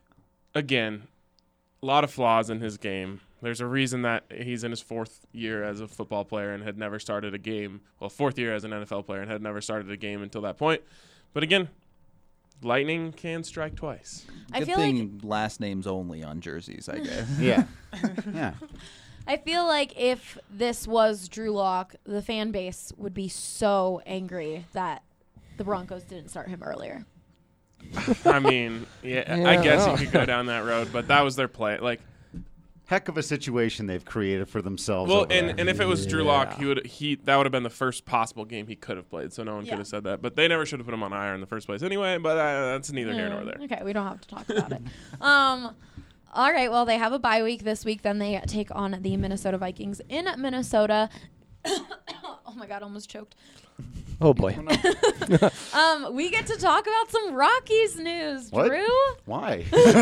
again, a lot of flaws in his game. There's a reason that he's in his fourth year as a football player and had never started a game. Well, fourth year as an NFL player and had never started a game until that point. But again, lightning can strike twice. I Good feel thing last names only on jerseys, I guess. Yeah. Yeah. I feel like if this was Drew Lock, the fan base would be so angry that the Broncos didn't start him earlier. I mean, I guess you could go down that road, but that was their play. Like, Heck of a situation they've created for themselves. well, over and there. if it was Drew Lock, that would have been the first possible game he could have played. So no one could have said that. But they never should have put him on IR in the first place anyway. But that's neither here nor there. Okay, we don't have to talk about it. All right, well, they have a bye week this week. Then they take on the Minnesota Vikings in Minnesota. Oh, my God, almost choked. Oh boy. We get to talk about some Rockies news, What? Drew. Why?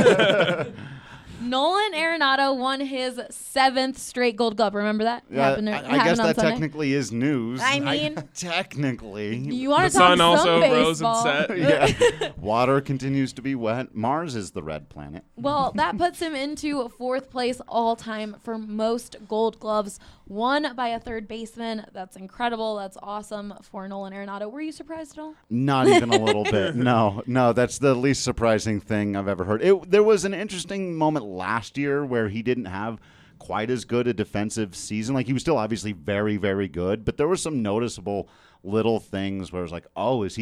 Nolan Arenado won his 7th straight Gold Glove. Remember that? Yeah, Happened I happened guess on that Sunday. technically is news. I mean, technically. You want The to talk sun some also rose baseball. and set. Yeah. Water continues to be wet. Mars is the red planet. Well, that puts him into 4th place all time for most Gold Gloves won by a third baseman. That's incredible. That's awesome for Nolan Arenado. Were you surprised at all? Not even a little bit. No, that's the least surprising thing I've ever heard. There was an interesting moment last year where he didn't have quite as good a defensive season. Like, he was still obviously very, very good, but there were some noticeable little things where it was like, oh, is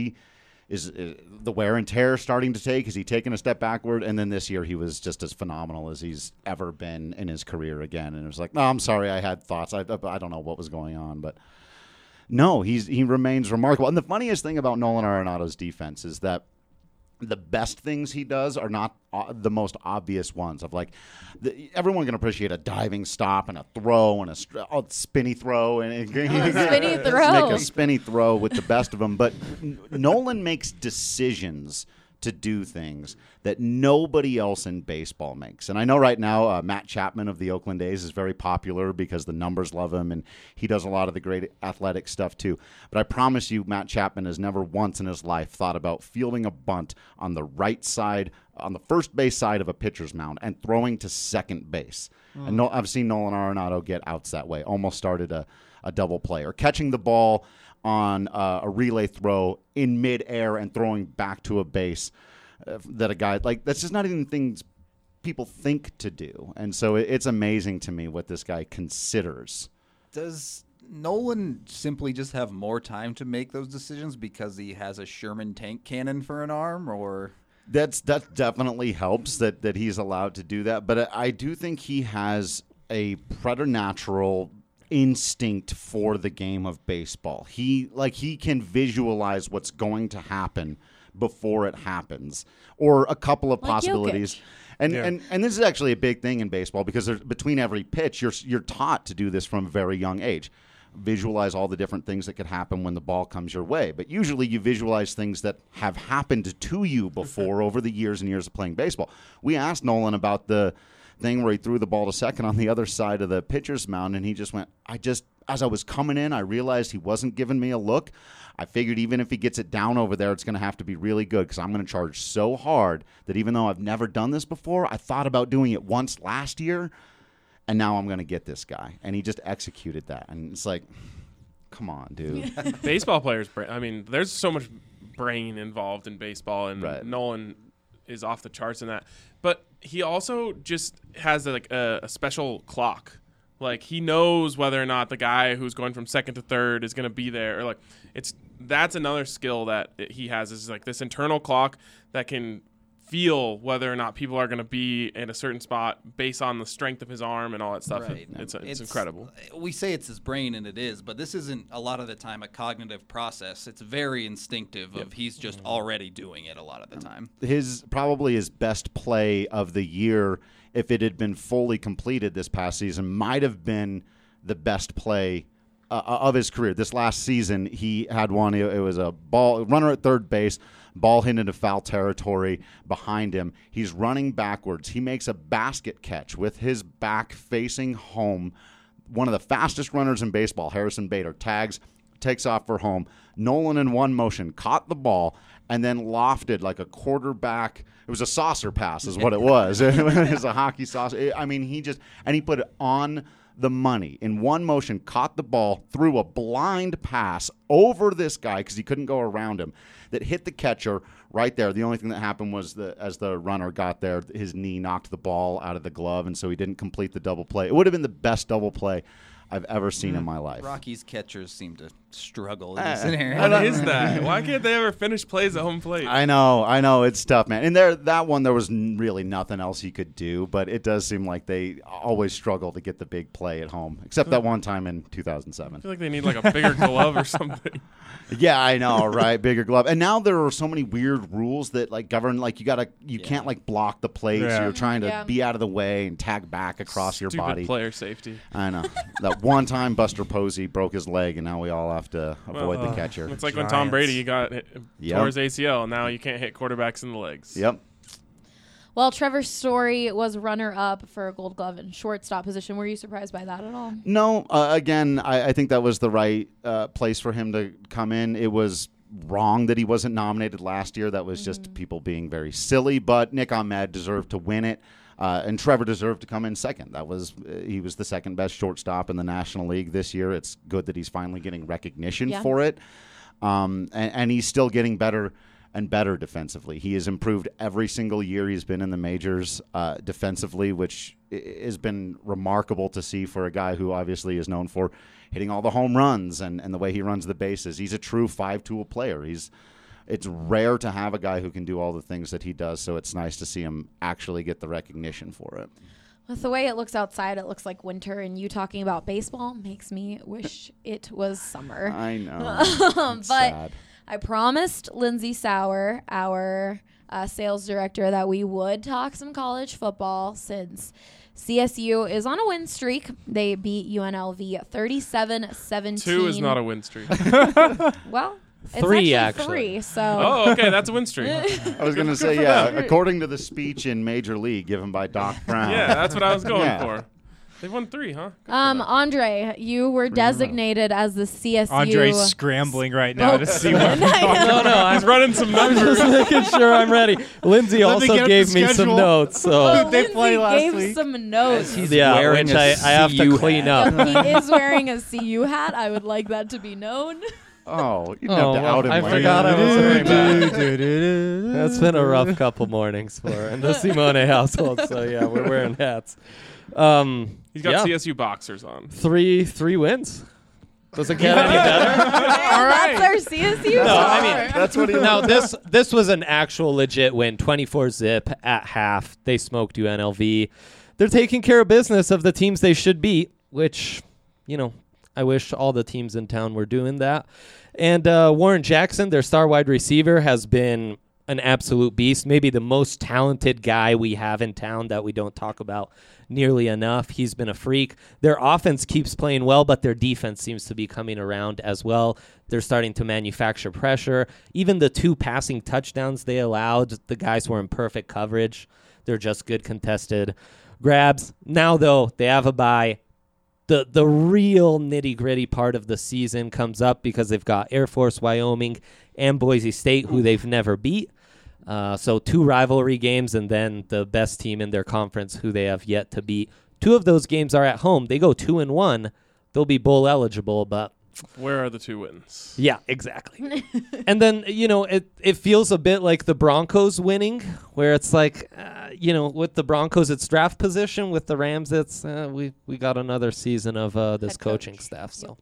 the wear and tear starting to take? Is he taking a step backward? And then this year he was just as phenomenal as he's ever been in his career again. And it was like, no, I'm sorry, I had thoughts. I don't know what was going on, but no, he remains remarkable. And the funniest thing about Nolan Arenado's defense is that the best things he does are not the most obvious ones. Of like, everyone can appreciate a diving stop and a throw and a spinny throw and Spinny throw. make a spinny throw with the best of them. But Nolan makes decisions to do things that nobody else in baseball makes. And I know right now Matt Chapman of the Oakland A's is very popular because the numbers love him and he does a lot of the great athletic stuff too. But I promise you, Matt Chapman has never once in his life thought about fielding a bunt on the right side, on the first base side of a pitcher's mound and throwing to second base. And I've seen Nolan Arenado get outs that way, almost started a double play, or catching the ball on a relay throw in midair and throwing back to a base that a guy like that's just not even things people think to do. And so it's amazing to me what this guy considers. Does Nolan simply just have more time to make those decisions because he has a Sherman tank cannon for an arm, or That definitely helps that he's allowed to do that. But I do think he has a preternatural instinct for the game of baseball. He can visualize what's going to happen before it happens, or a couple of possibilities. And this is actually a big thing in baseball, because between every pitch, you're taught to do this from a very young age. Visualize all the different things that could happen when the ball comes your way. But usually you visualize things that have happened to you before over the years and years of playing baseball. We asked Nolan about the thing where he threw the ball to second on the other side of the pitcher's mound, and he just went, as I was coming in, I realized he wasn't giving me a look. I figured even if he gets it down over there, it's going to have to be really good, because I'm going to charge so hard that even though I've never done this before, I thought about doing it once last year, and now I'm going to get this guy. And he just executed that. And it's like, come on, dude. Baseball players, I mean, there's so much brain involved in baseball, and Nolan is off the charts in that. But he also just has a special clock. Like, he knows whether or not the guy who's going from second to third is going to be there. Or that's another skill that he has, is like this internal clock that can feel whether or not people are going to be in a certain spot based on the strength of his arm and all that stuff. Right. It's incredible. We say it's his brain, and it is, but this isn't a lot of the time a cognitive process. It's very instinctive. He's just already doing it a lot of the time. Probably his best play of the year, if it had been fully completed this past season, might have been the best play of his career. This last season, he had one. It was a ball runner at third base, ball hit into foul territory behind him. He's running backwards. He makes a basket catch with his back facing home. One of the fastest runners in baseball, Harrison Bader, tags, takes off for home. Nolan, in one motion, caught the ball and then lofted like a quarterback. It was a saucer pass is what it was. It was a hockey saucer. I mean, he put it on the money. In one motion, caught the ball, threw a blind pass over this guy because he couldn't go around him, that hit the catcher right there. The only thing that happened was as the runner got there, his knee knocked the ball out of the glove, and so he didn't complete the double play. It would have been the best double play I've ever seen in my life. Rockies catchers seem to struggle in this scenario. What is that? Why can't they ever finish plays at home plate? I know. It's tough, man. And that one, there was really nothing else he could do, but it does seem like they always struggle to get the big play at home, except that one time in 2007. I feel like they need like a bigger glove or something. Yeah, I know, right? Bigger glove. And now there are so many weird rules that govern, you can't block the plate, so you're trying to be out of the way and tag back across your body. Player safety. I know. That one time Buster Posey broke his leg, and now we all have to avoid the catcher. It's like when Tom Brady tore his ACL, and now you can't hit quarterbacks in the legs. Yep. Well, Trevor Story was runner-up for a Gold Glove and shortstop position. Were you surprised by that at all? No. Again, I think that was the right place for him to come in. It was wrong that he wasn't nominated last year. That was just people being very silly. But Nick Ahmed deserved to win it, and Trevor deserved to come in second. He was the second best shortstop in the National League this year. It's good that he's finally getting recognition for it, and he's still getting better and better defensively. He has improved every single year he's been in the majors defensively, which has been remarkable to see for a guy who obviously is known for hitting all the home runs and the way he runs the bases. He's a true five-tool player. It's rare to have a guy who can do all the things that he does, so it's nice to see him actually get the recognition for it. With the way it looks outside, it looks like winter, and you talking about baseball makes me wish it was summer. I know. But sad. I promised Lindsay Sauer, our sales director, that we would talk some college football since CSU is on a win streak. They beat UNLV 37-17. 2 is not a win streak. Well, it's 3 actually 3. So. Oh, okay, that's a win streak. I was going to say, yeah, according to the speech in Major League given by Doc Brown. Yeah, that's what I was going for. They won 3, huh? Andre, you were designated as the CSU. Andre's scrambling right now to see what. No, He's running some numbers. I'm just making sure I'm ready. Lindsay also gave me some notes. So they play last gave week? some notes. He's wearing which a I have to CU clean hat. up. He is wearing a CU hat. I would like that to be known. Oh, you have to out him. I like forgot that. I was wearing that. That's been a rough couple mornings in the Simone household. So yeah, we're wearing hats. He's got CSU boxers on. 3 wins. Does it get any better? All right. That's our CSU. No, I mean That's what he no. This was an actual legit win. 24-0 at half. They smoked UNLV. they're taking care of business of the teams they should beat, which, I wish all the teams in town were doing that. And Warren Jackson, their star wide receiver, has been an absolute beast, maybe the most talented guy we have in town that we don't talk about nearly enough. He's been a freak. Their offense keeps playing well, but their defense seems to be coming around as well. They're starting to manufacture pressure. Even the 2 passing touchdowns they allowed, the guys were in perfect coverage. They're just good contested grabs. Now, though, they have a bye. The real nitty-gritty part of the season comes up because they've got Air Force, Wyoming, and Boise State, who they've never beat. So 2 rivalry games, and then the best team in their conference, who they have yet to beat. 2 of those games are at home. They go 2-1. They'll be bowl eligible, but Where are the 2 wins? yeah, exactly. And then, it feels a bit like the Broncos winning, where it's like, with the Broncos, it's draft position. With the Rams, it's we got another season of this Head coaching coach. staff. So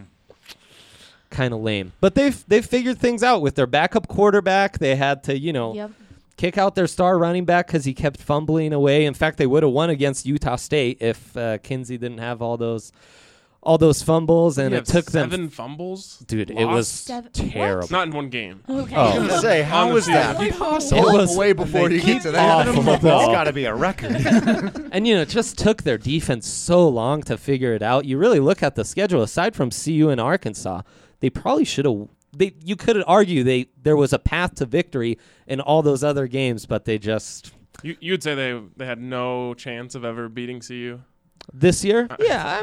kind of lame. But they've figured things out with their backup quarterback. They had to, Yep. kick out their star running back because he kept fumbling away. In fact, they would have won against Utah State if Kinsey didn't have all those fumbles, and it took 7 them. fumbles. Dude, it was Seven- terrible. Not in one game. Okay. I was going to say, how On the is that season. possible? It was way before you get to that. awful, That's though. got to be a record. And, it just took their defense so long to figure it out. You really look at the schedule, aside from CU and Arkansas, they probably should have. You could argue there was a path to victory in all those other games, but they just. You'd say they had no chance of ever beating CU? This year? Yeah, I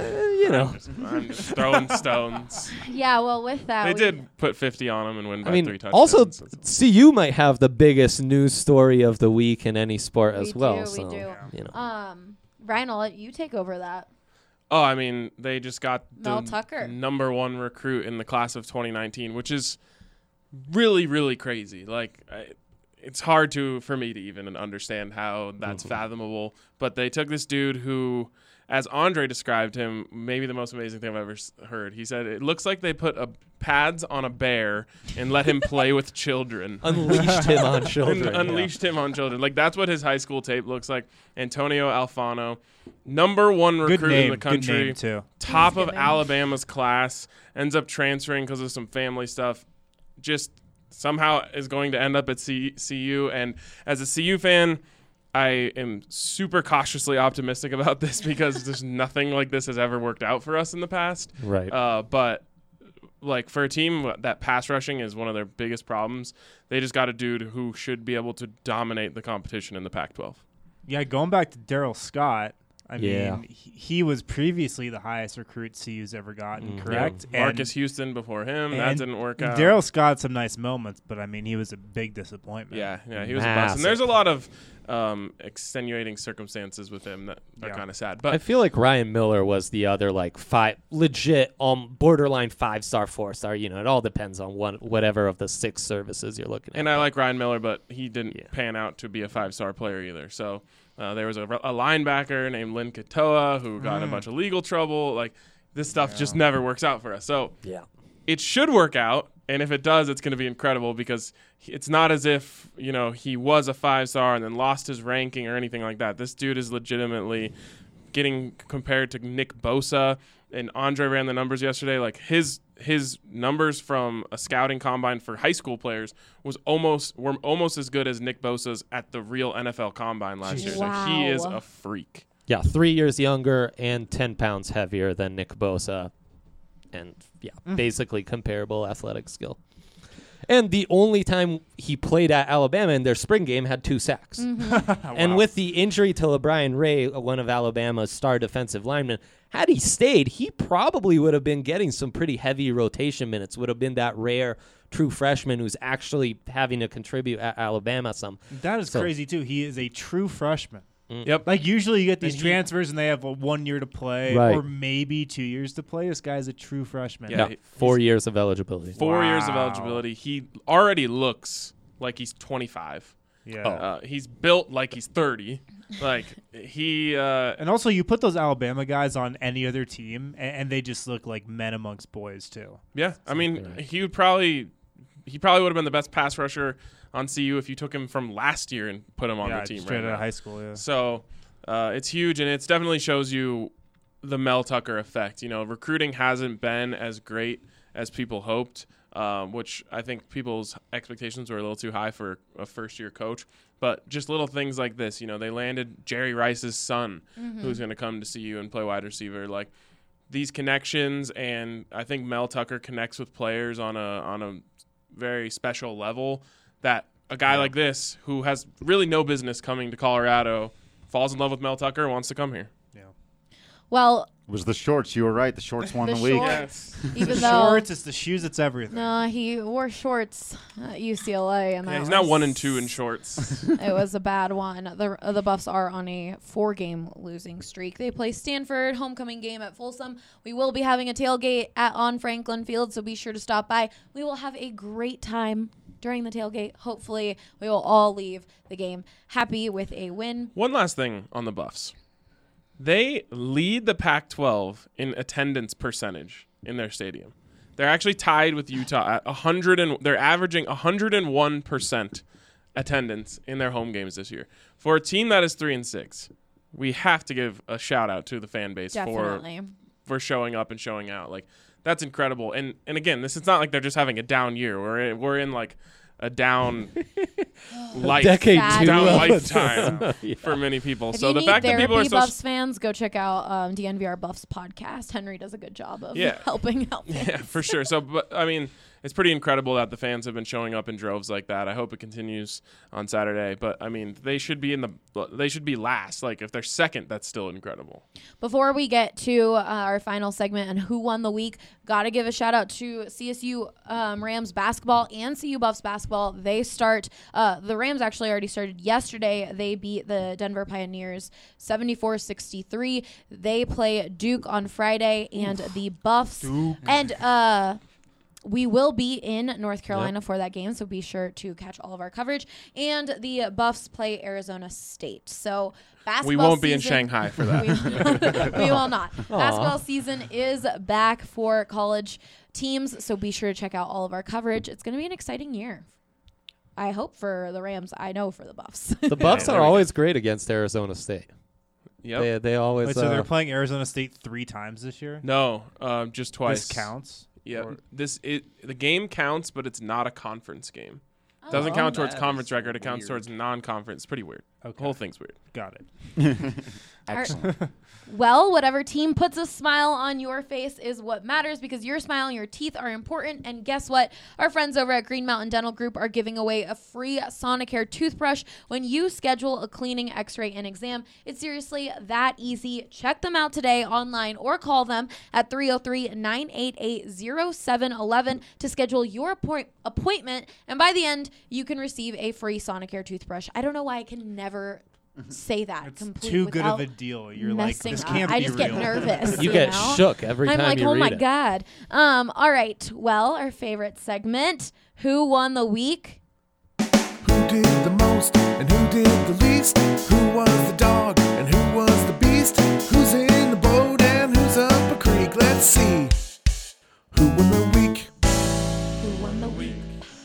mean, I'm just throwing stones. Yeah, well, with that, They we- did put 50 on them and win by 3 touchdowns. also, CU might have the biggest news story of the week in any sport We as well. do, so, we do. you know. Ryan, I'll let you take over that. Oh, I mean, they just got Mel the Tucker. number 1 recruit in the class of 2019, which is really, really crazy. Like, it's hard for me to even understand how that's fathomable. But they took this dude who, as Andre described him, maybe the most amazing thing I've ever heard. He said, it looks like they put pads on a bear and let him play with children. Unleashed him on children. Unleashed him on children. Like, that's what his high school tape looks like. Antonio Alfano, number 1 recruit Good name. in the country. Good name, too. Top That's a of good name. Alabama's class, ends up transferring because of some family stuff. Just somehow is going to end up at CU. And as a CU fan, I am super cautiously optimistic about this because there's nothing like this has ever worked out for us in the past. Right. But like for a team that pass rushing is one of their biggest problems, they just got a dude who should be able to dominate the competition in the Pac-12. Yeah, going back to Daryl Scott, I Yeah. mean, he was previously the highest recruit CU's ever gotten, correct? Yeah, Marcus Houston before him, that and didn't work out. Daryl Scott some nice moments, but I mean, he was a big disappointment. Yeah, he was a bust. Massive. And there's a lot of extenuating circumstances with him that are kind of sad. I But feel like Ryan Miller was the other legit borderline 5-star 4-star. It all depends on whatever of the 6 services you're looking at. and I like Ryan Miller, but he didn't pan out to be a 5-star player either. So there was a linebacker named Lynn Katoa who got in a bunch of legal trouble. Like, this stuff just never works out for us. So Yeah. it should work out, and if it does, it's going to be incredible because it's not as if he was a 5-star and then lost his ranking or anything like that. This dude is legitimately getting compared to Nick Bosa, and Andre ran the numbers yesterday. Like his numbers from a scouting combine for high school players were almost as good as Nick Bosa's at the real NFL combine last year. So he is Wow. a freak. Yeah, 3 years younger and 10 pounds heavier than Nick Bosa. And, basically comparable athletic skill. And the only time he played at Alabama in their spring game had 2 sacks. And with the injury to LeBron Ray, one of Alabama's star defensive linemen, had he stayed, he probably would have been getting some pretty heavy rotation minutes, would have been that rare true freshman who's actually having to contribute at Alabama some. That is So- crazy, too. He is a true freshman. Yep. Like, usually you get these And transfers and they have 1 year to play Right. or maybe 2 years to play. This guy's a true freshman. Yeah. No, 4 years of eligibility. 4 years of Wow. eligibility. He already looks like he's 25. Yeah. He's built like he's 30. Like he And also, you put those Alabama guys on any other team, and they just look like men amongst boys, too. yeah, I mean, he probably would have been the best pass rusher on CU if you took him from last year and put him on yeah, the team straight right out now. of high school, yeah. So It's huge, and it definitely shows you the Mel Tucker effect. Recruiting hasn't been as great as people hoped, which I think people's expectations were a little too high for a first-year coach. But just little things like this, they landed Jerry Rice's son, who's going to come to see you and play wide receiver. Like, these connections, and I think Mel Tucker connects with players on a very special level that a guy like this, who has really no business coming to Colorado, falls in love with Mel Tucker and wants to come here. Well, It was the shorts. You were right. The shorts won the week. Shorts, even The though shorts, it's the shoes, it's everything. no, he wore shorts at UCLA, and Yeah, that he's now was- 1-2 in shorts. It was a bad one. The Buffs are on a 4-game losing streak. They play Stanford, homecoming game at Folsom. We will be having a tailgate on Franklin Field, so be sure to stop by. We will have a great time during the tailgate. Hopefully, we will all leave the game happy with a win. One last thing on the Buffs. They lead the Pac-12 in attendance percentage in their stadium. They're actually tied with Utah at 100, and they're averaging 101% attendance in their home games this year. For a team that is 3-6, we have to give a shout out to the fan base Definitely. for showing up and showing out. Like, that's incredible. And again, this is not like they're just having a down year. We're in like a down Decade Sad. down Yeah. lifetime for many people. If So you the need fact that therapy, people are so Buffs fans, go check out DNVR Buffs podcast. Henry does a good job of helping out fans. Yeah, for sure. So, but I mean, it's pretty incredible that the fans have been showing up in droves like that. I hope it continues on Saturday. But I mean, they should be last. Like, if they're second, that's still incredible. Before we get to our final segment and who won the week, got to give a shout out to CSU Rams basketball and CU Buffs basketball. They start, the Rams actually already started yesterday. They beat the Denver Pioneers 74-63. They play Duke on Friday, and the Buffs. And we will be in North Carolina for that game, so be sure to catch all of our coverage. And the Buffs play Arizona State. So basketball We won't be in season- Shanghai for that. we will not. Basketball season is back for college teams, so be sure to check out all of our coverage. It's going to be an exciting year. I hope for the Rams. I know for the Buffs. The Buffs are always great against Arizona State. Yep. They always. Wait, so they're playing Arizona State 3 times this year? No, just twice. This counts? Yeah, Or- the game counts, but it's not a conference game. It doesn't count towards conference record. It counts towards non-conference. It's pretty weird. The whole thing's weird. Got it. Excellent. Well, whatever team puts a smile on your face is what matters, because your smile and your teeth are important. And guess what? Our friends over at Green Mountain Dental Group are giving away a free Sonicare toothbrush when you schedule a cleaning, x-ray, and exam. It's seriously that easy. Check them out today online or call them at 303-988-0711 to schedule your appointment. And by the end, you can receive a free Sonicare toothbrush. I don't know why I can never say that It's completely too good of without a deal. You're like, messing this up. can't I be just real. get nervous. You get know? shook every I'm time like, you oh read my it. God. All right. Well, our favorite segment, Who Won the Week? Who did the most and who did the least? Who was the dog and who was the beast? Who's in the boat and who's up a creek? Let's see. Who won the week? Who won the week?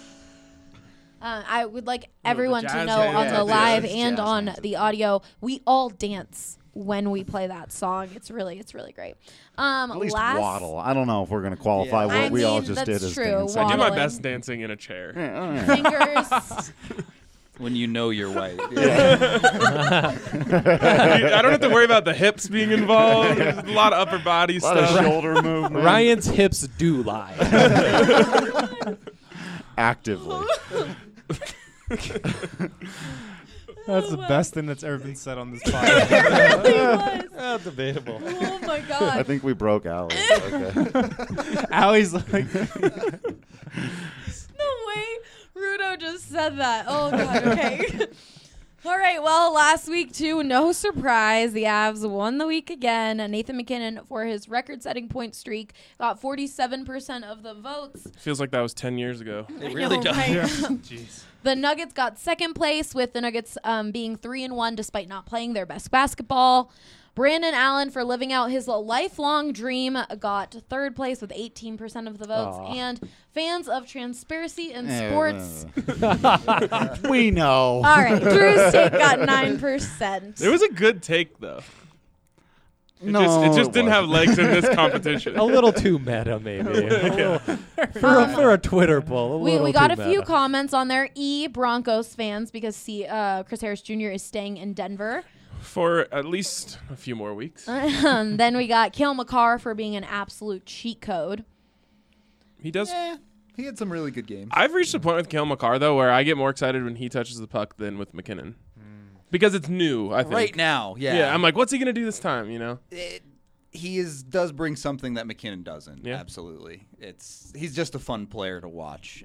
I would like everyone to jazz know hands. on the Yeah, live jazz and on hands. the audio, we all dance when we play that song. It's really great. At least last, waddle. I don't know if we're going to qualify Yeah. what we all mean, just that's did as true. dancing. I do my Waddling. best dancing in a chair. Yeah, all right. Fingers. When you know you're white. I don't have to worry about the hips being involved. There's a lot of upper body A lot of stuff. shoulder movement. Ryan's hips do lie. Actively. That's the best thing that's ever been said on this podcast. Debatable. Oh my I God. think we broke Allie. Okay. Allie's like, The way Rudo just said that. Oh, God. Okay. All right. Well, last week, too, no surprise. The Avs won the week again. Nathan McKinnon, for his record-setting point streak, got 47% of the votes. Feels like that was 10 years ago. It really know, does. right? jeez. The Nuggets got second place, with the Nuggets being 3-1 despite not playing their best basketball. Brandon Allen, for living out his lifelong dream, got third place with 18% of the votes. Aw. And fans of transparency in sports. We know. All right, Drew's take got 9%. It was a good take, though. It No, just it didn't have legs in this competition. A little too meta, maybe. For a Twitter poll. We got a few comments on there. Broncos fans, because Chris Harris Jr. is staying in Denver. For at least a few more weeks. Then we got Kale McCarr for being an absolute cheat code. He does. Yeah, he had some really good games. I've reached a point with Kale McCarr, though, where I get more excited when he touches the puck than with McKinnon. Because it's new, I think. Right now, yeah. Yeah, I'm like, what's he going to do this time, you know? He does bring something that McKinnon doesn't. Yeah. Absolutely. He's just a fun player to watch.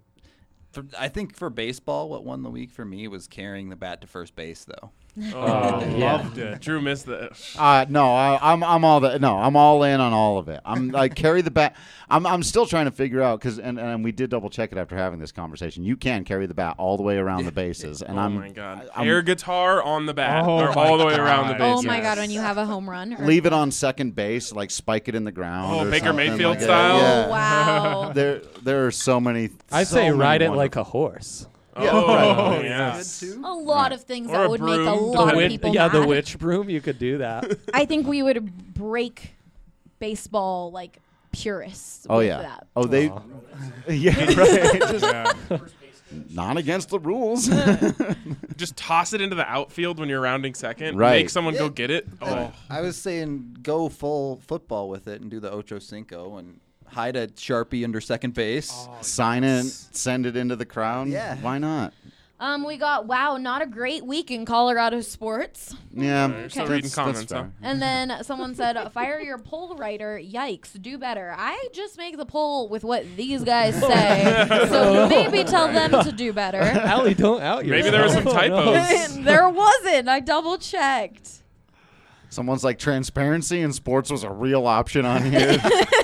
I think for baseball, what won the week for me was carrying the bat to first base, though. Loved it. Drew missed that. No, I'm all that. No, I'm all in on all of it. I'm like carry the bat. I'm still trying to figure out because and we did double check it after having this conversation. You can carry the bat all the way around the bases, and Oh, my God. Air guitar on the bat. Oh, or my all the way around the God. base. Oh my Yes. God, when you have a home run. Or leave it on second base, like spike it in the ground. Oh, or Baker something Mayfield like that. style? Yeah. Oh, wow. There are so many. I'd so say many ride it wonderful- like a horse. Oh, right. yes. A lot of things Or that a would make a broom. lot of Witch- people yeah, mad. the witch broom. You could do that. I think we would break baseball like purists. Oh with yeah. that. Oh they. Aw. Yeah. Right. Just Yeah. not against the rules. Just toss it into the outfield when you're rounding second. Right. Make someone go get it. Oh. I was saying go full football with it and do the Ocho Cinco and hide a Sharpie under second base. Sign it. Send it into the crowd. Yeah. Why not? We got not a great week in Colorado sports. Yeah. You're still reading comments, huh? And then someone said, fire your poll writer. Yikes, do better. I just make the poll with what these guys say. So maybe tell them to do better. Allie, don't out yourself. Maybe there were some Oh, no. typos. There wasn't. I double checked. Someone's like transparency in sports was a real option on here.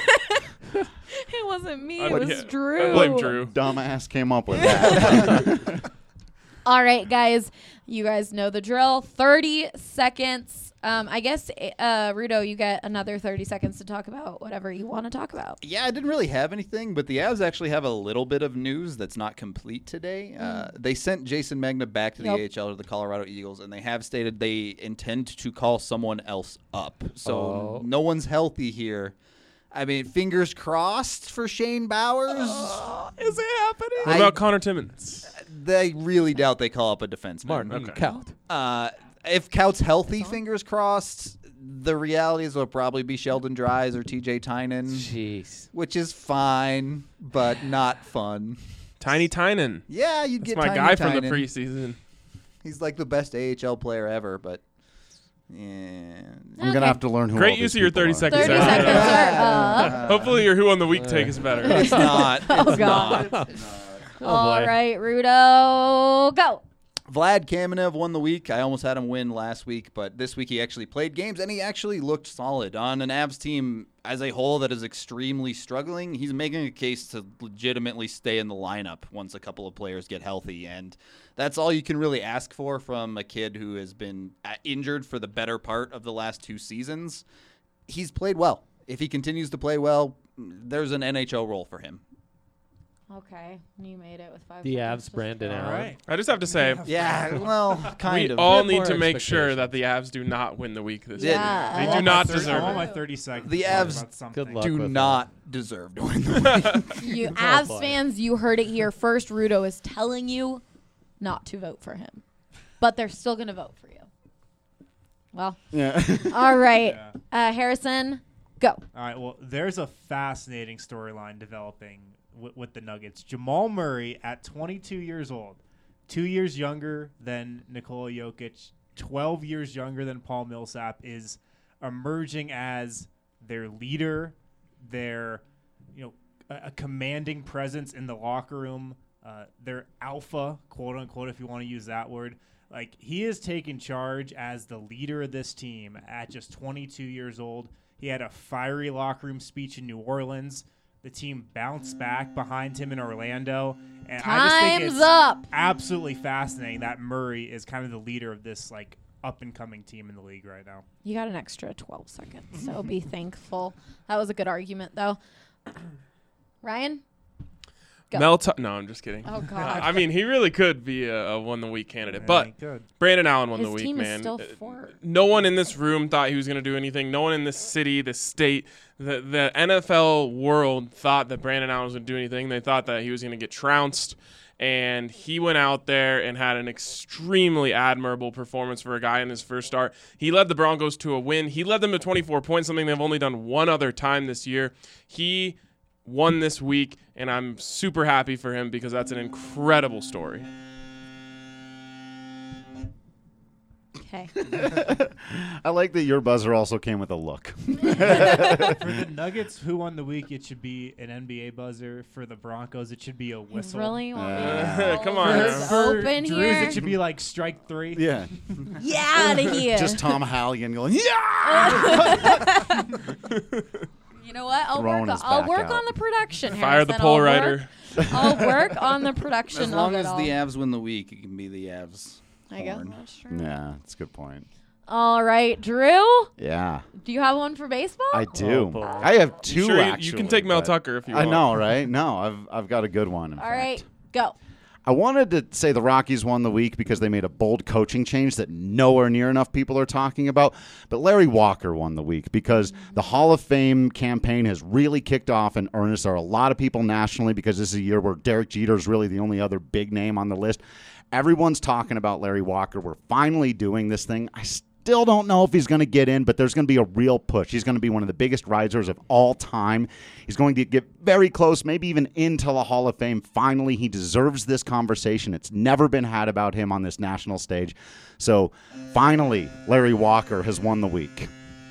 It wasn't me. I It would- was yeah, Drew. I blame Drew. Dumbass came up with that. All right, guys. You guys know the drill. 30 seconds. I guess, Rudo, you get another 30 seconds to talk about whatever you want to talk about. Yeah, I didn't really have anything, but the Avs actually have a little bit of news that's not complete today. They sent Jason Magna back to the AHL to the Colorado Eagles, and they have stated they intend to call someone else up. So no one's healthy here. I mean, fingers crossed for Shane Bowers. Is it happening? What about Connor Timmins? They really doubt they call up a defenseman. Martin Okay. Kaut. If Cout's healthy, fingers crossed, the reality is it'll probably be Sheldon Dries or TJ Tynan, Jeez. which is fine, but not fun. Tiny Tynan. Yeah, you'd That's get my Tiny guy from the Tynan. preseason. He's like the best AHL player ever, but yeah. I'm going to have to learn who Great all use these of your people 30 are. seconds. 30 Sarah. seconds are up. Hopefully your Who on the Week take is better. It's not. Oh, It's God. not. All right, Rudo, go. Vlad Kamenev won the week. I almost had him win last week, but this week he actually played games, and he actually looked solid on an Avs team as a whole that is extremely struggling. He's making a case to legitimately stay in the lineup once a couple of players get healthy, and that's all you can really ask for from a kid who has been injured for the better part of the last 2 seasons. He's played well. If he continues to play well, there's an NHL role for him. Okay, you made it with 5 The seconds. Avs, Brandon All Allen. right. I just have to say, Yeah, well, we kind of. all Bit need more to make sure expectations. that the Avs do not win the week this Yeah. year. They I do not I deserve want my it. 30 seconds. The to talk Avs about something. Good luck. do with not deserve to win the week. You Oh, Avs boy. fans, you heard it here first. Rudo is telling you not to vote for him, but they're still going to vote for you. Well, Yeah. all right. Harrison, go. All right. Well, there's a fascinating storyline developing with the Nuggets. Jamal Murray, at 22 years old, 2 years younger than Nikola Jokic, 12 years younger than Paul Millsap, is emerging as their leader, their a commanding presence in the locker room, their alpha, quote unquote, if you want to use that word. Like, he has taken charge as the leader of this team at just 22 years old. He had a fiery locker room speech in New Orleans. The team bounced back behind him in Orlando. And I just think Time's it's up. absolutely fascinating that Murray is kind of the leader of this, like, up-and-coming team in the league right now. You got an extra 12 seconds, so be thankful. That was a good argument, though. Ryan? Go. No, I'm just kidding. Oh, God. I mean, he really could be a won-the-week candidate, Yeah, but he could. Brandon Allen won His the week, team is man. still fourth. No one in this room thought he was going to do anything. No one in this city, this state, the NFL world thought that Brandon Allen was going to do anything. They thought that he was going to get trounced, and he went out there and had an extremely admirable performance for a guy in his first start. He led the Broncos to a win. He led them to 24 points, something they've only done one other time this year. He won this week, and I'm super happy for him because that's an incredible story. Okay. I like that your buzzer also came with a look. For the Nuggets, who won the week, it should be an NBA buzzer. For the Broncos, it should be a You whistle. really want me to Come go on this now. For open Drews, here? it should be like strike 3. Yeah. Get out of here. Just Tom Halligan going, yeah! You know what? I'll Throwing work, his I'll back work out. on the production. Fire the Harrison. pole I'll rider. I'll work on the production As long of it as all. the Avs win the week, it can be the Avs. There you go. horn. That's true. Yeah, that's a good point. All right, Drew. Yeah, Do you have one for baseball? I do. boy. I have two, Sure, actually. you can take Mel but- Tucker if you I want. know, right? No, I've got a good one. In All fact. right, go. I wanted to say the Rockies won the week because they made a bold coaching change that nowhere near enough people are talking about. But Larry Walker won the week because the Hall of Fame campaign has really kicked off in earnest. There are a lot of people nationally because this is a year where Derek Jeter is really the only other big name on the list. Everyone's talking about Larry Walker. We're finally doing this thing. I still don't know if he's going to get in, but there's going to be a real push. He's going to be one of the biggest risers of all time. He's going to get very close, maybe even into the Hall of Fame. Finally, he deserves this conversation. It's never been had about him on this national stage. So finally, Larry Walker has won the week.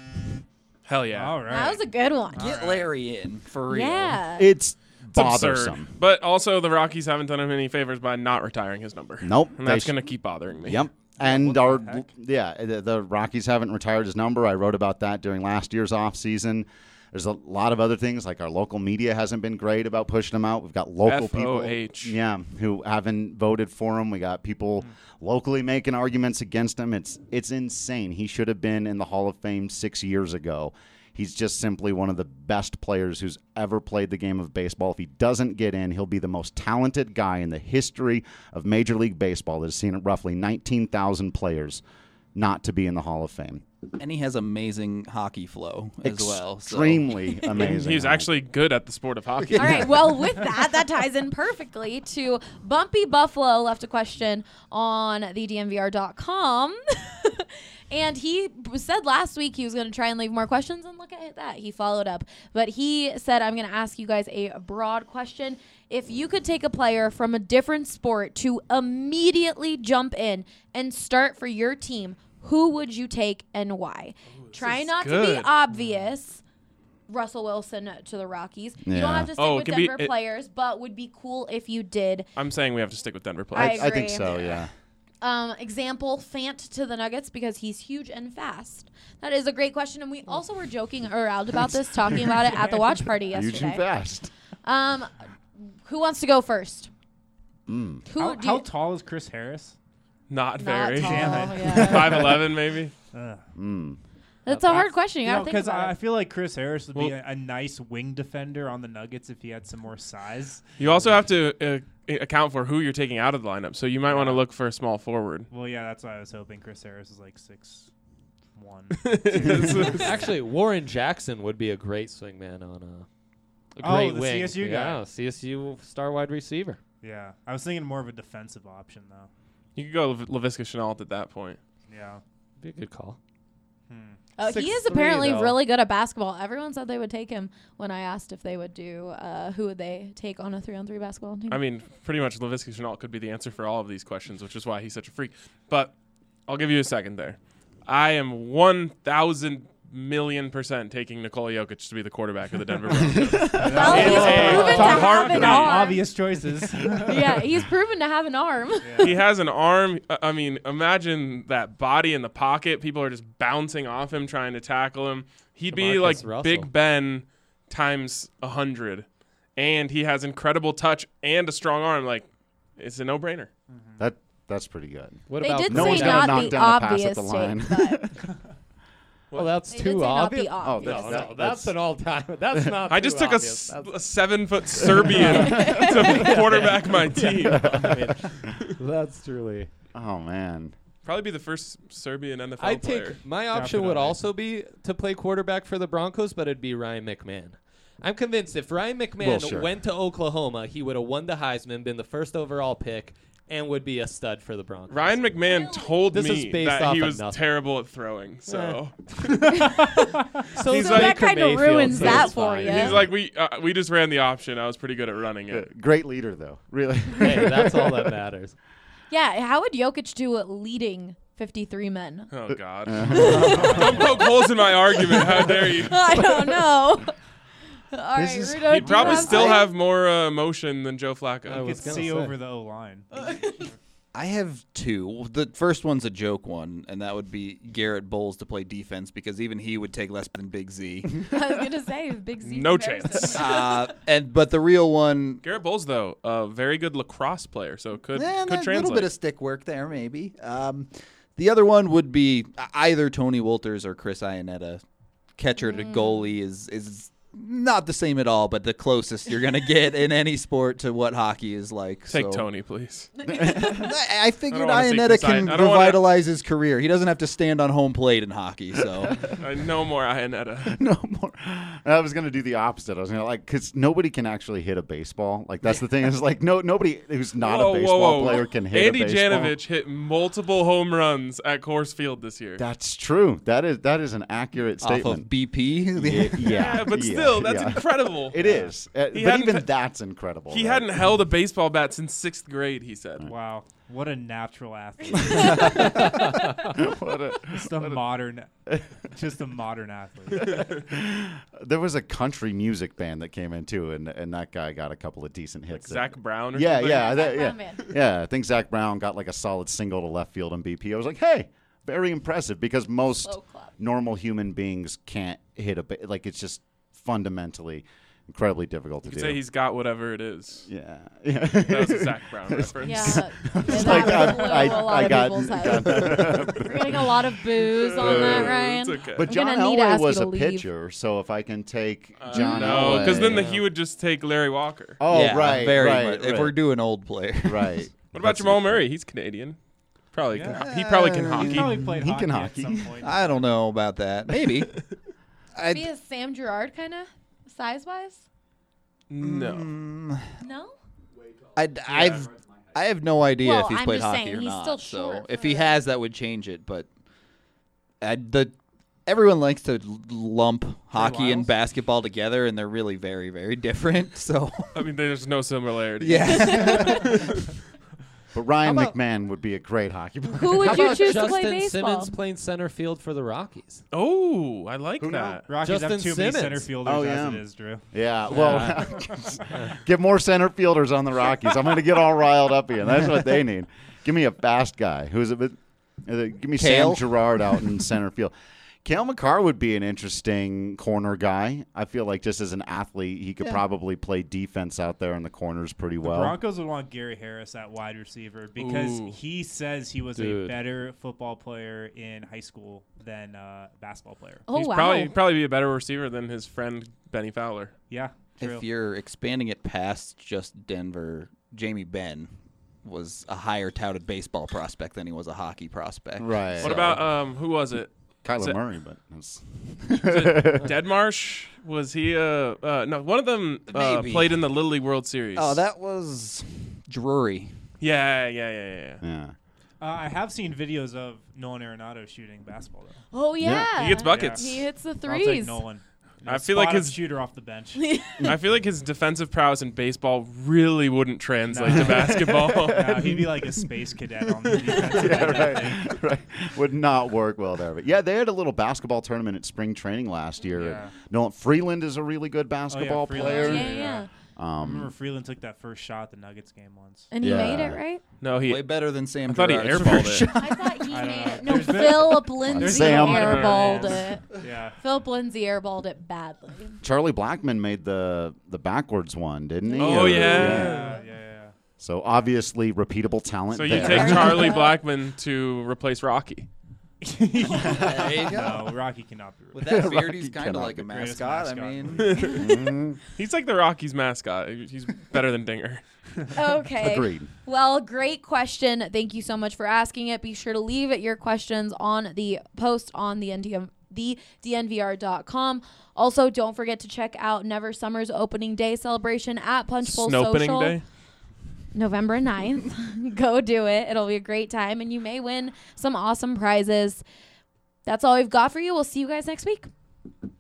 Hell yeah. All right. That was a good one. Get Larry in, for real. Yeah. It's It's absurd. bothersome. But also, the Rockies haven't done him any favors by not retiring his number. Nope. And They that's sh- going to keep bothering me. Yep. And What the heck? the Rockies haven't retired his number. I wrote about that during last year's offseason. There's a lot of other things, like our local media hasn't been great about pushing him out. We've got local people who haven't voted for him. We got people locally making arguments against him. It's insane. He should have been in the Hall of Fame 6 years ago. He's just simply one of the best players who's ever played the game of baseball. If he doesn't get in, he'll be the most talented guy in the history of Major League Baseball that has seen roughly 19,000 players not to be in the Hall of Fame. And he has amazing hockey flow as well. So. Extremely amazing. He's actually good at the sport of hockey. All right. Well, with that ties in perfectly to Bumpy Buffalo left a question on thednvr.com. And he said last week he was going to try and leave more questions, and look at that. He followed up. But he said, I'm going to ask you guys a broad question. If you could take a player from a different sport to immediately jump in and start for your team, who would you take and why? Try is not to good. be obvious. Russell Wilson to the Rockies. You don't Yeah. have to stick Oh, with it can be- Denver players, but would be cool if you did. I'm saying we have to stick with Denver I players. I think agree. so, yeah. Example, Fant to the Nuggets because he's huge and fast. That is a great question, and we also were joking around about this, talking about it at the watch party Huge and yesterday. fast. Who wants to go first? Who How, do how you- tall is Chris Harris? Not Not very. tall, Damn it. yeah. 5'11", maybe. That's a hard question. You gotta think Because about I it. feel like Chris Harris would be Well- a nice wing defender on the Nuggets if he had some more size. You also have to account for who you're taking out of the lineup. So you might want to look for a small forward. Well, yeah, that's why I was hoping Chris Harris is like 6'1". Actually, Warren Jackson would be a great swingman on a Oh, great the wing. CSU guy. Yeah, CSU star wide receiver. Yeah, I was thinking more of a defensive option though. You could go Laviska Shenault at that point. Yeah. Be a good call. Oh, he is 6'3", apparently though. really good at basketball. Everyone said they would take him when I asked if they would do who would they take on a 3-on-3 basketball team. I mean, pretty much Laviska Shenault could be the answer for all of these questions, which is why he's such a freak. But I'll give you a second there. I am 1,000,000,000% taking Nikola Jokic to be the quarterback of the Denver Broncos. well, he's Hey, proven to Tom have an Hartman. arm. Obvious choices. Yeah, he's proven to have an arm. He has an arm. I mean, imagine that body in the pocket. People are just bouncing off him, trying to tackle him. He'd be DeMarcus like Russell. Big Ben times 100. And he has incredible touch and a strong arm. Like, it's a no-brainer. That's pretty good. What They about did No say one's Chris? gonna not knock the down a pass at obvious the line. take, but Well, that's they did too say not obvious. the obvious. that's- No, that's an all-time. That's not. I just too took a obvious. That's- 7-foot Serbian to quarterback my team. I mean, that's truly. Oh man. Probably be the first Serbian NFL I player. take my option would Definitely. also be to play quarterback for the Broncos, but it'd be Ryan McMahon. I'm convinced if Ryan McMahon Well, sure. went to Oklahoma, he would have won the Heisman, been the first overall pick, and would be a stud for the Broncos. Ryan McMahon told This me is based that off he of was nothing. terrible at throwing. So So He's so like that kind of Mayfield, ruins so that it's for fine. you. he's like, we just ran the option. I was pretty good at running it. Great leader though. Really. Hey, that's all that matters. Yeah, how would Jokic do leading 53 men? Oh God! Don't poke holes in my argument. How dare you? I don't know. All right, is- Rudo, He'd do you probably have still some? have more emotion than Joe Flacco. I You was could gonna see say. over the O line. I have two. The first one's a joke one, and that would be Garrett Bowles to play defense because even he would take less than Big Z. I was gonna say Big Z. No comparison. chance. But the real one, Garrett Bowles, though, a very good lacrosse player, so could a translate. little bit of stick work there, maybe. The other one would be either Tony Wolters or Chris Iannetta. Catcher to goalie is not the same at all, but the closest you're going to get in any sport to what hockey is like. Take so. Tony, please. I figured wanna see Iannetta Chris can I don't wanna- revitalize his career. He doesn't have to stand on home plate in hockey, so. No more Iannetta. No more. I was gonna do the opposite. I was gonna because nobody can actually hit a baseball. Like that's the thing. Is like nobody who's not a baseball player can hit Andy a baseball. Janovich hit multiple home runs at Coors Field this year. That's true. That is an accurate Off of statement. BP. Yeah, but still, that's incredible. It is. But hadn't even pa- that's incredible. He right? hadn't held a baseball bat since 6th grade, he said. Wow, what a natural athlete! What a- just a modern athlete. there was a country music band that came in too, and that guy got a couple of decent hits. Zach Brown or Yeah, something? yeah, Zach yeah, Brown band. yeah. I think Zach Brown got like a solid single to left field in BP. I was like, hey, very impressive because most Slow clap. normal human beings can't hit like it's just fundamentally incredibly difficult to You do. could say he's got whatever it is. yeah. That was a Zach Brown reference. Yeah, that like, was blew I a lot of got- people's heads. We're getting a lot of booze on that, Ryan. It's okay. But I'm John gonna need to Elway ask you was to a leave. pitcher, so if I can take John No, Elway, because then he would just take Larry Walker. Oh, Yeah, right, very right, much. right. If we're doing old player. right. What about Jamal Murray? He's Canadian. Probably Yeah. he probably can He hockey. He probably played He hockey, can at hockey. some point. I don't know about that. Maybe. Be a Sam Girard kind of size wise. No. No. I have no idea Well, if he's I'm played just hockey saying, or he's not. still So short if for he a- has, that would change it. But everyone likes to lump hockey and Lyles? basketball together, and they're really very, very different. So I mean, there's no similarity. yeah. But Ryan How about- McMahon would be a great hockey player. Who would How you about choose to Justin play baseball? Simmons playing center field for the Rockies? Oh, I like Who that. Rockies Justin have too many Simmons. center fielders Oh, as yeah. it is, Drew. Yeah, well, get more center fielders on the Rockies. I'm going to get all riled up here. That's what they need. Give me a fast guy. Who's a bit? Give me Cale? Sam Girard out in center field. Cale McCarr would be an interesting corner guy. I feel like just as an athlete, he could probably play defense out there in the corners pretty The well. Broncos would want Gary Harris at wide receiver because Ooh. he says he was Dude. a better football player in high school than basketball player. Oh He's wow. probably be a better receiver than his friend Benny Fowler. Yeah, true. If you're expanding it past just Denver, Jamie Benn was a higher touted baseball prospect than he was a hockey prospect. Right. What about who was it? Kyler is it- Murray? But it's- Deadmarsh? Was he no, one of them Maybe. played in the Little League World Series. Oh, that was Drury. Yeah. yeah. I have seen videos of Nolan Arenado shooting basketball though. Oh yeah. He gets buckets. He hits the I'll threes. take Nolan. I feel like Spot-up his- shooter off the bench. I feel like his defensive prowess in baseball really wouldn't translate to basketball. He'd be like a space cadet on the defensive end. I think. Right. Would not work well there. But yeah, they had a little basketball tournament at spring training last year. Yeah. Nolan Freeland is a really good basketball Freeland. player. Yeah. I remember Freeland took that first shot at the Nuggets game once. And he Yeah. made it, right? No, he. Way better than Sam I thought he Girard's airballed first it. shot. I thought he I don't made know. it. No, There's been- Philip Lindsay Sam. airballed it. Yeah. Philip Lindsay airballed it badly. Charlie Blackman made the backwards one, didn't he? Oh, Or- yeah. Yeah. So obviously repeatable talent. So you there. take Charlie Blackman to replace Rocky. There you go. No, Rocky cannot be. With that beard, Rocky he's kind of cannot like a be. Greatest mascot. I mascot. mean, He's like the Rockies mascot. He's better than Dinger. Okay. Agreed. Well, great question. Thank you so much for asking it. Be sure to leave your questions on the post on the DNVR.com. Also, don't forget to check out Never Summer's opening day celebration at Punch Bowl Snopening Social. Day. November 9th. Go do it. It'll be a great time, and you may win some awesome prizes. That's all we've got for you. We'll see you guys next week.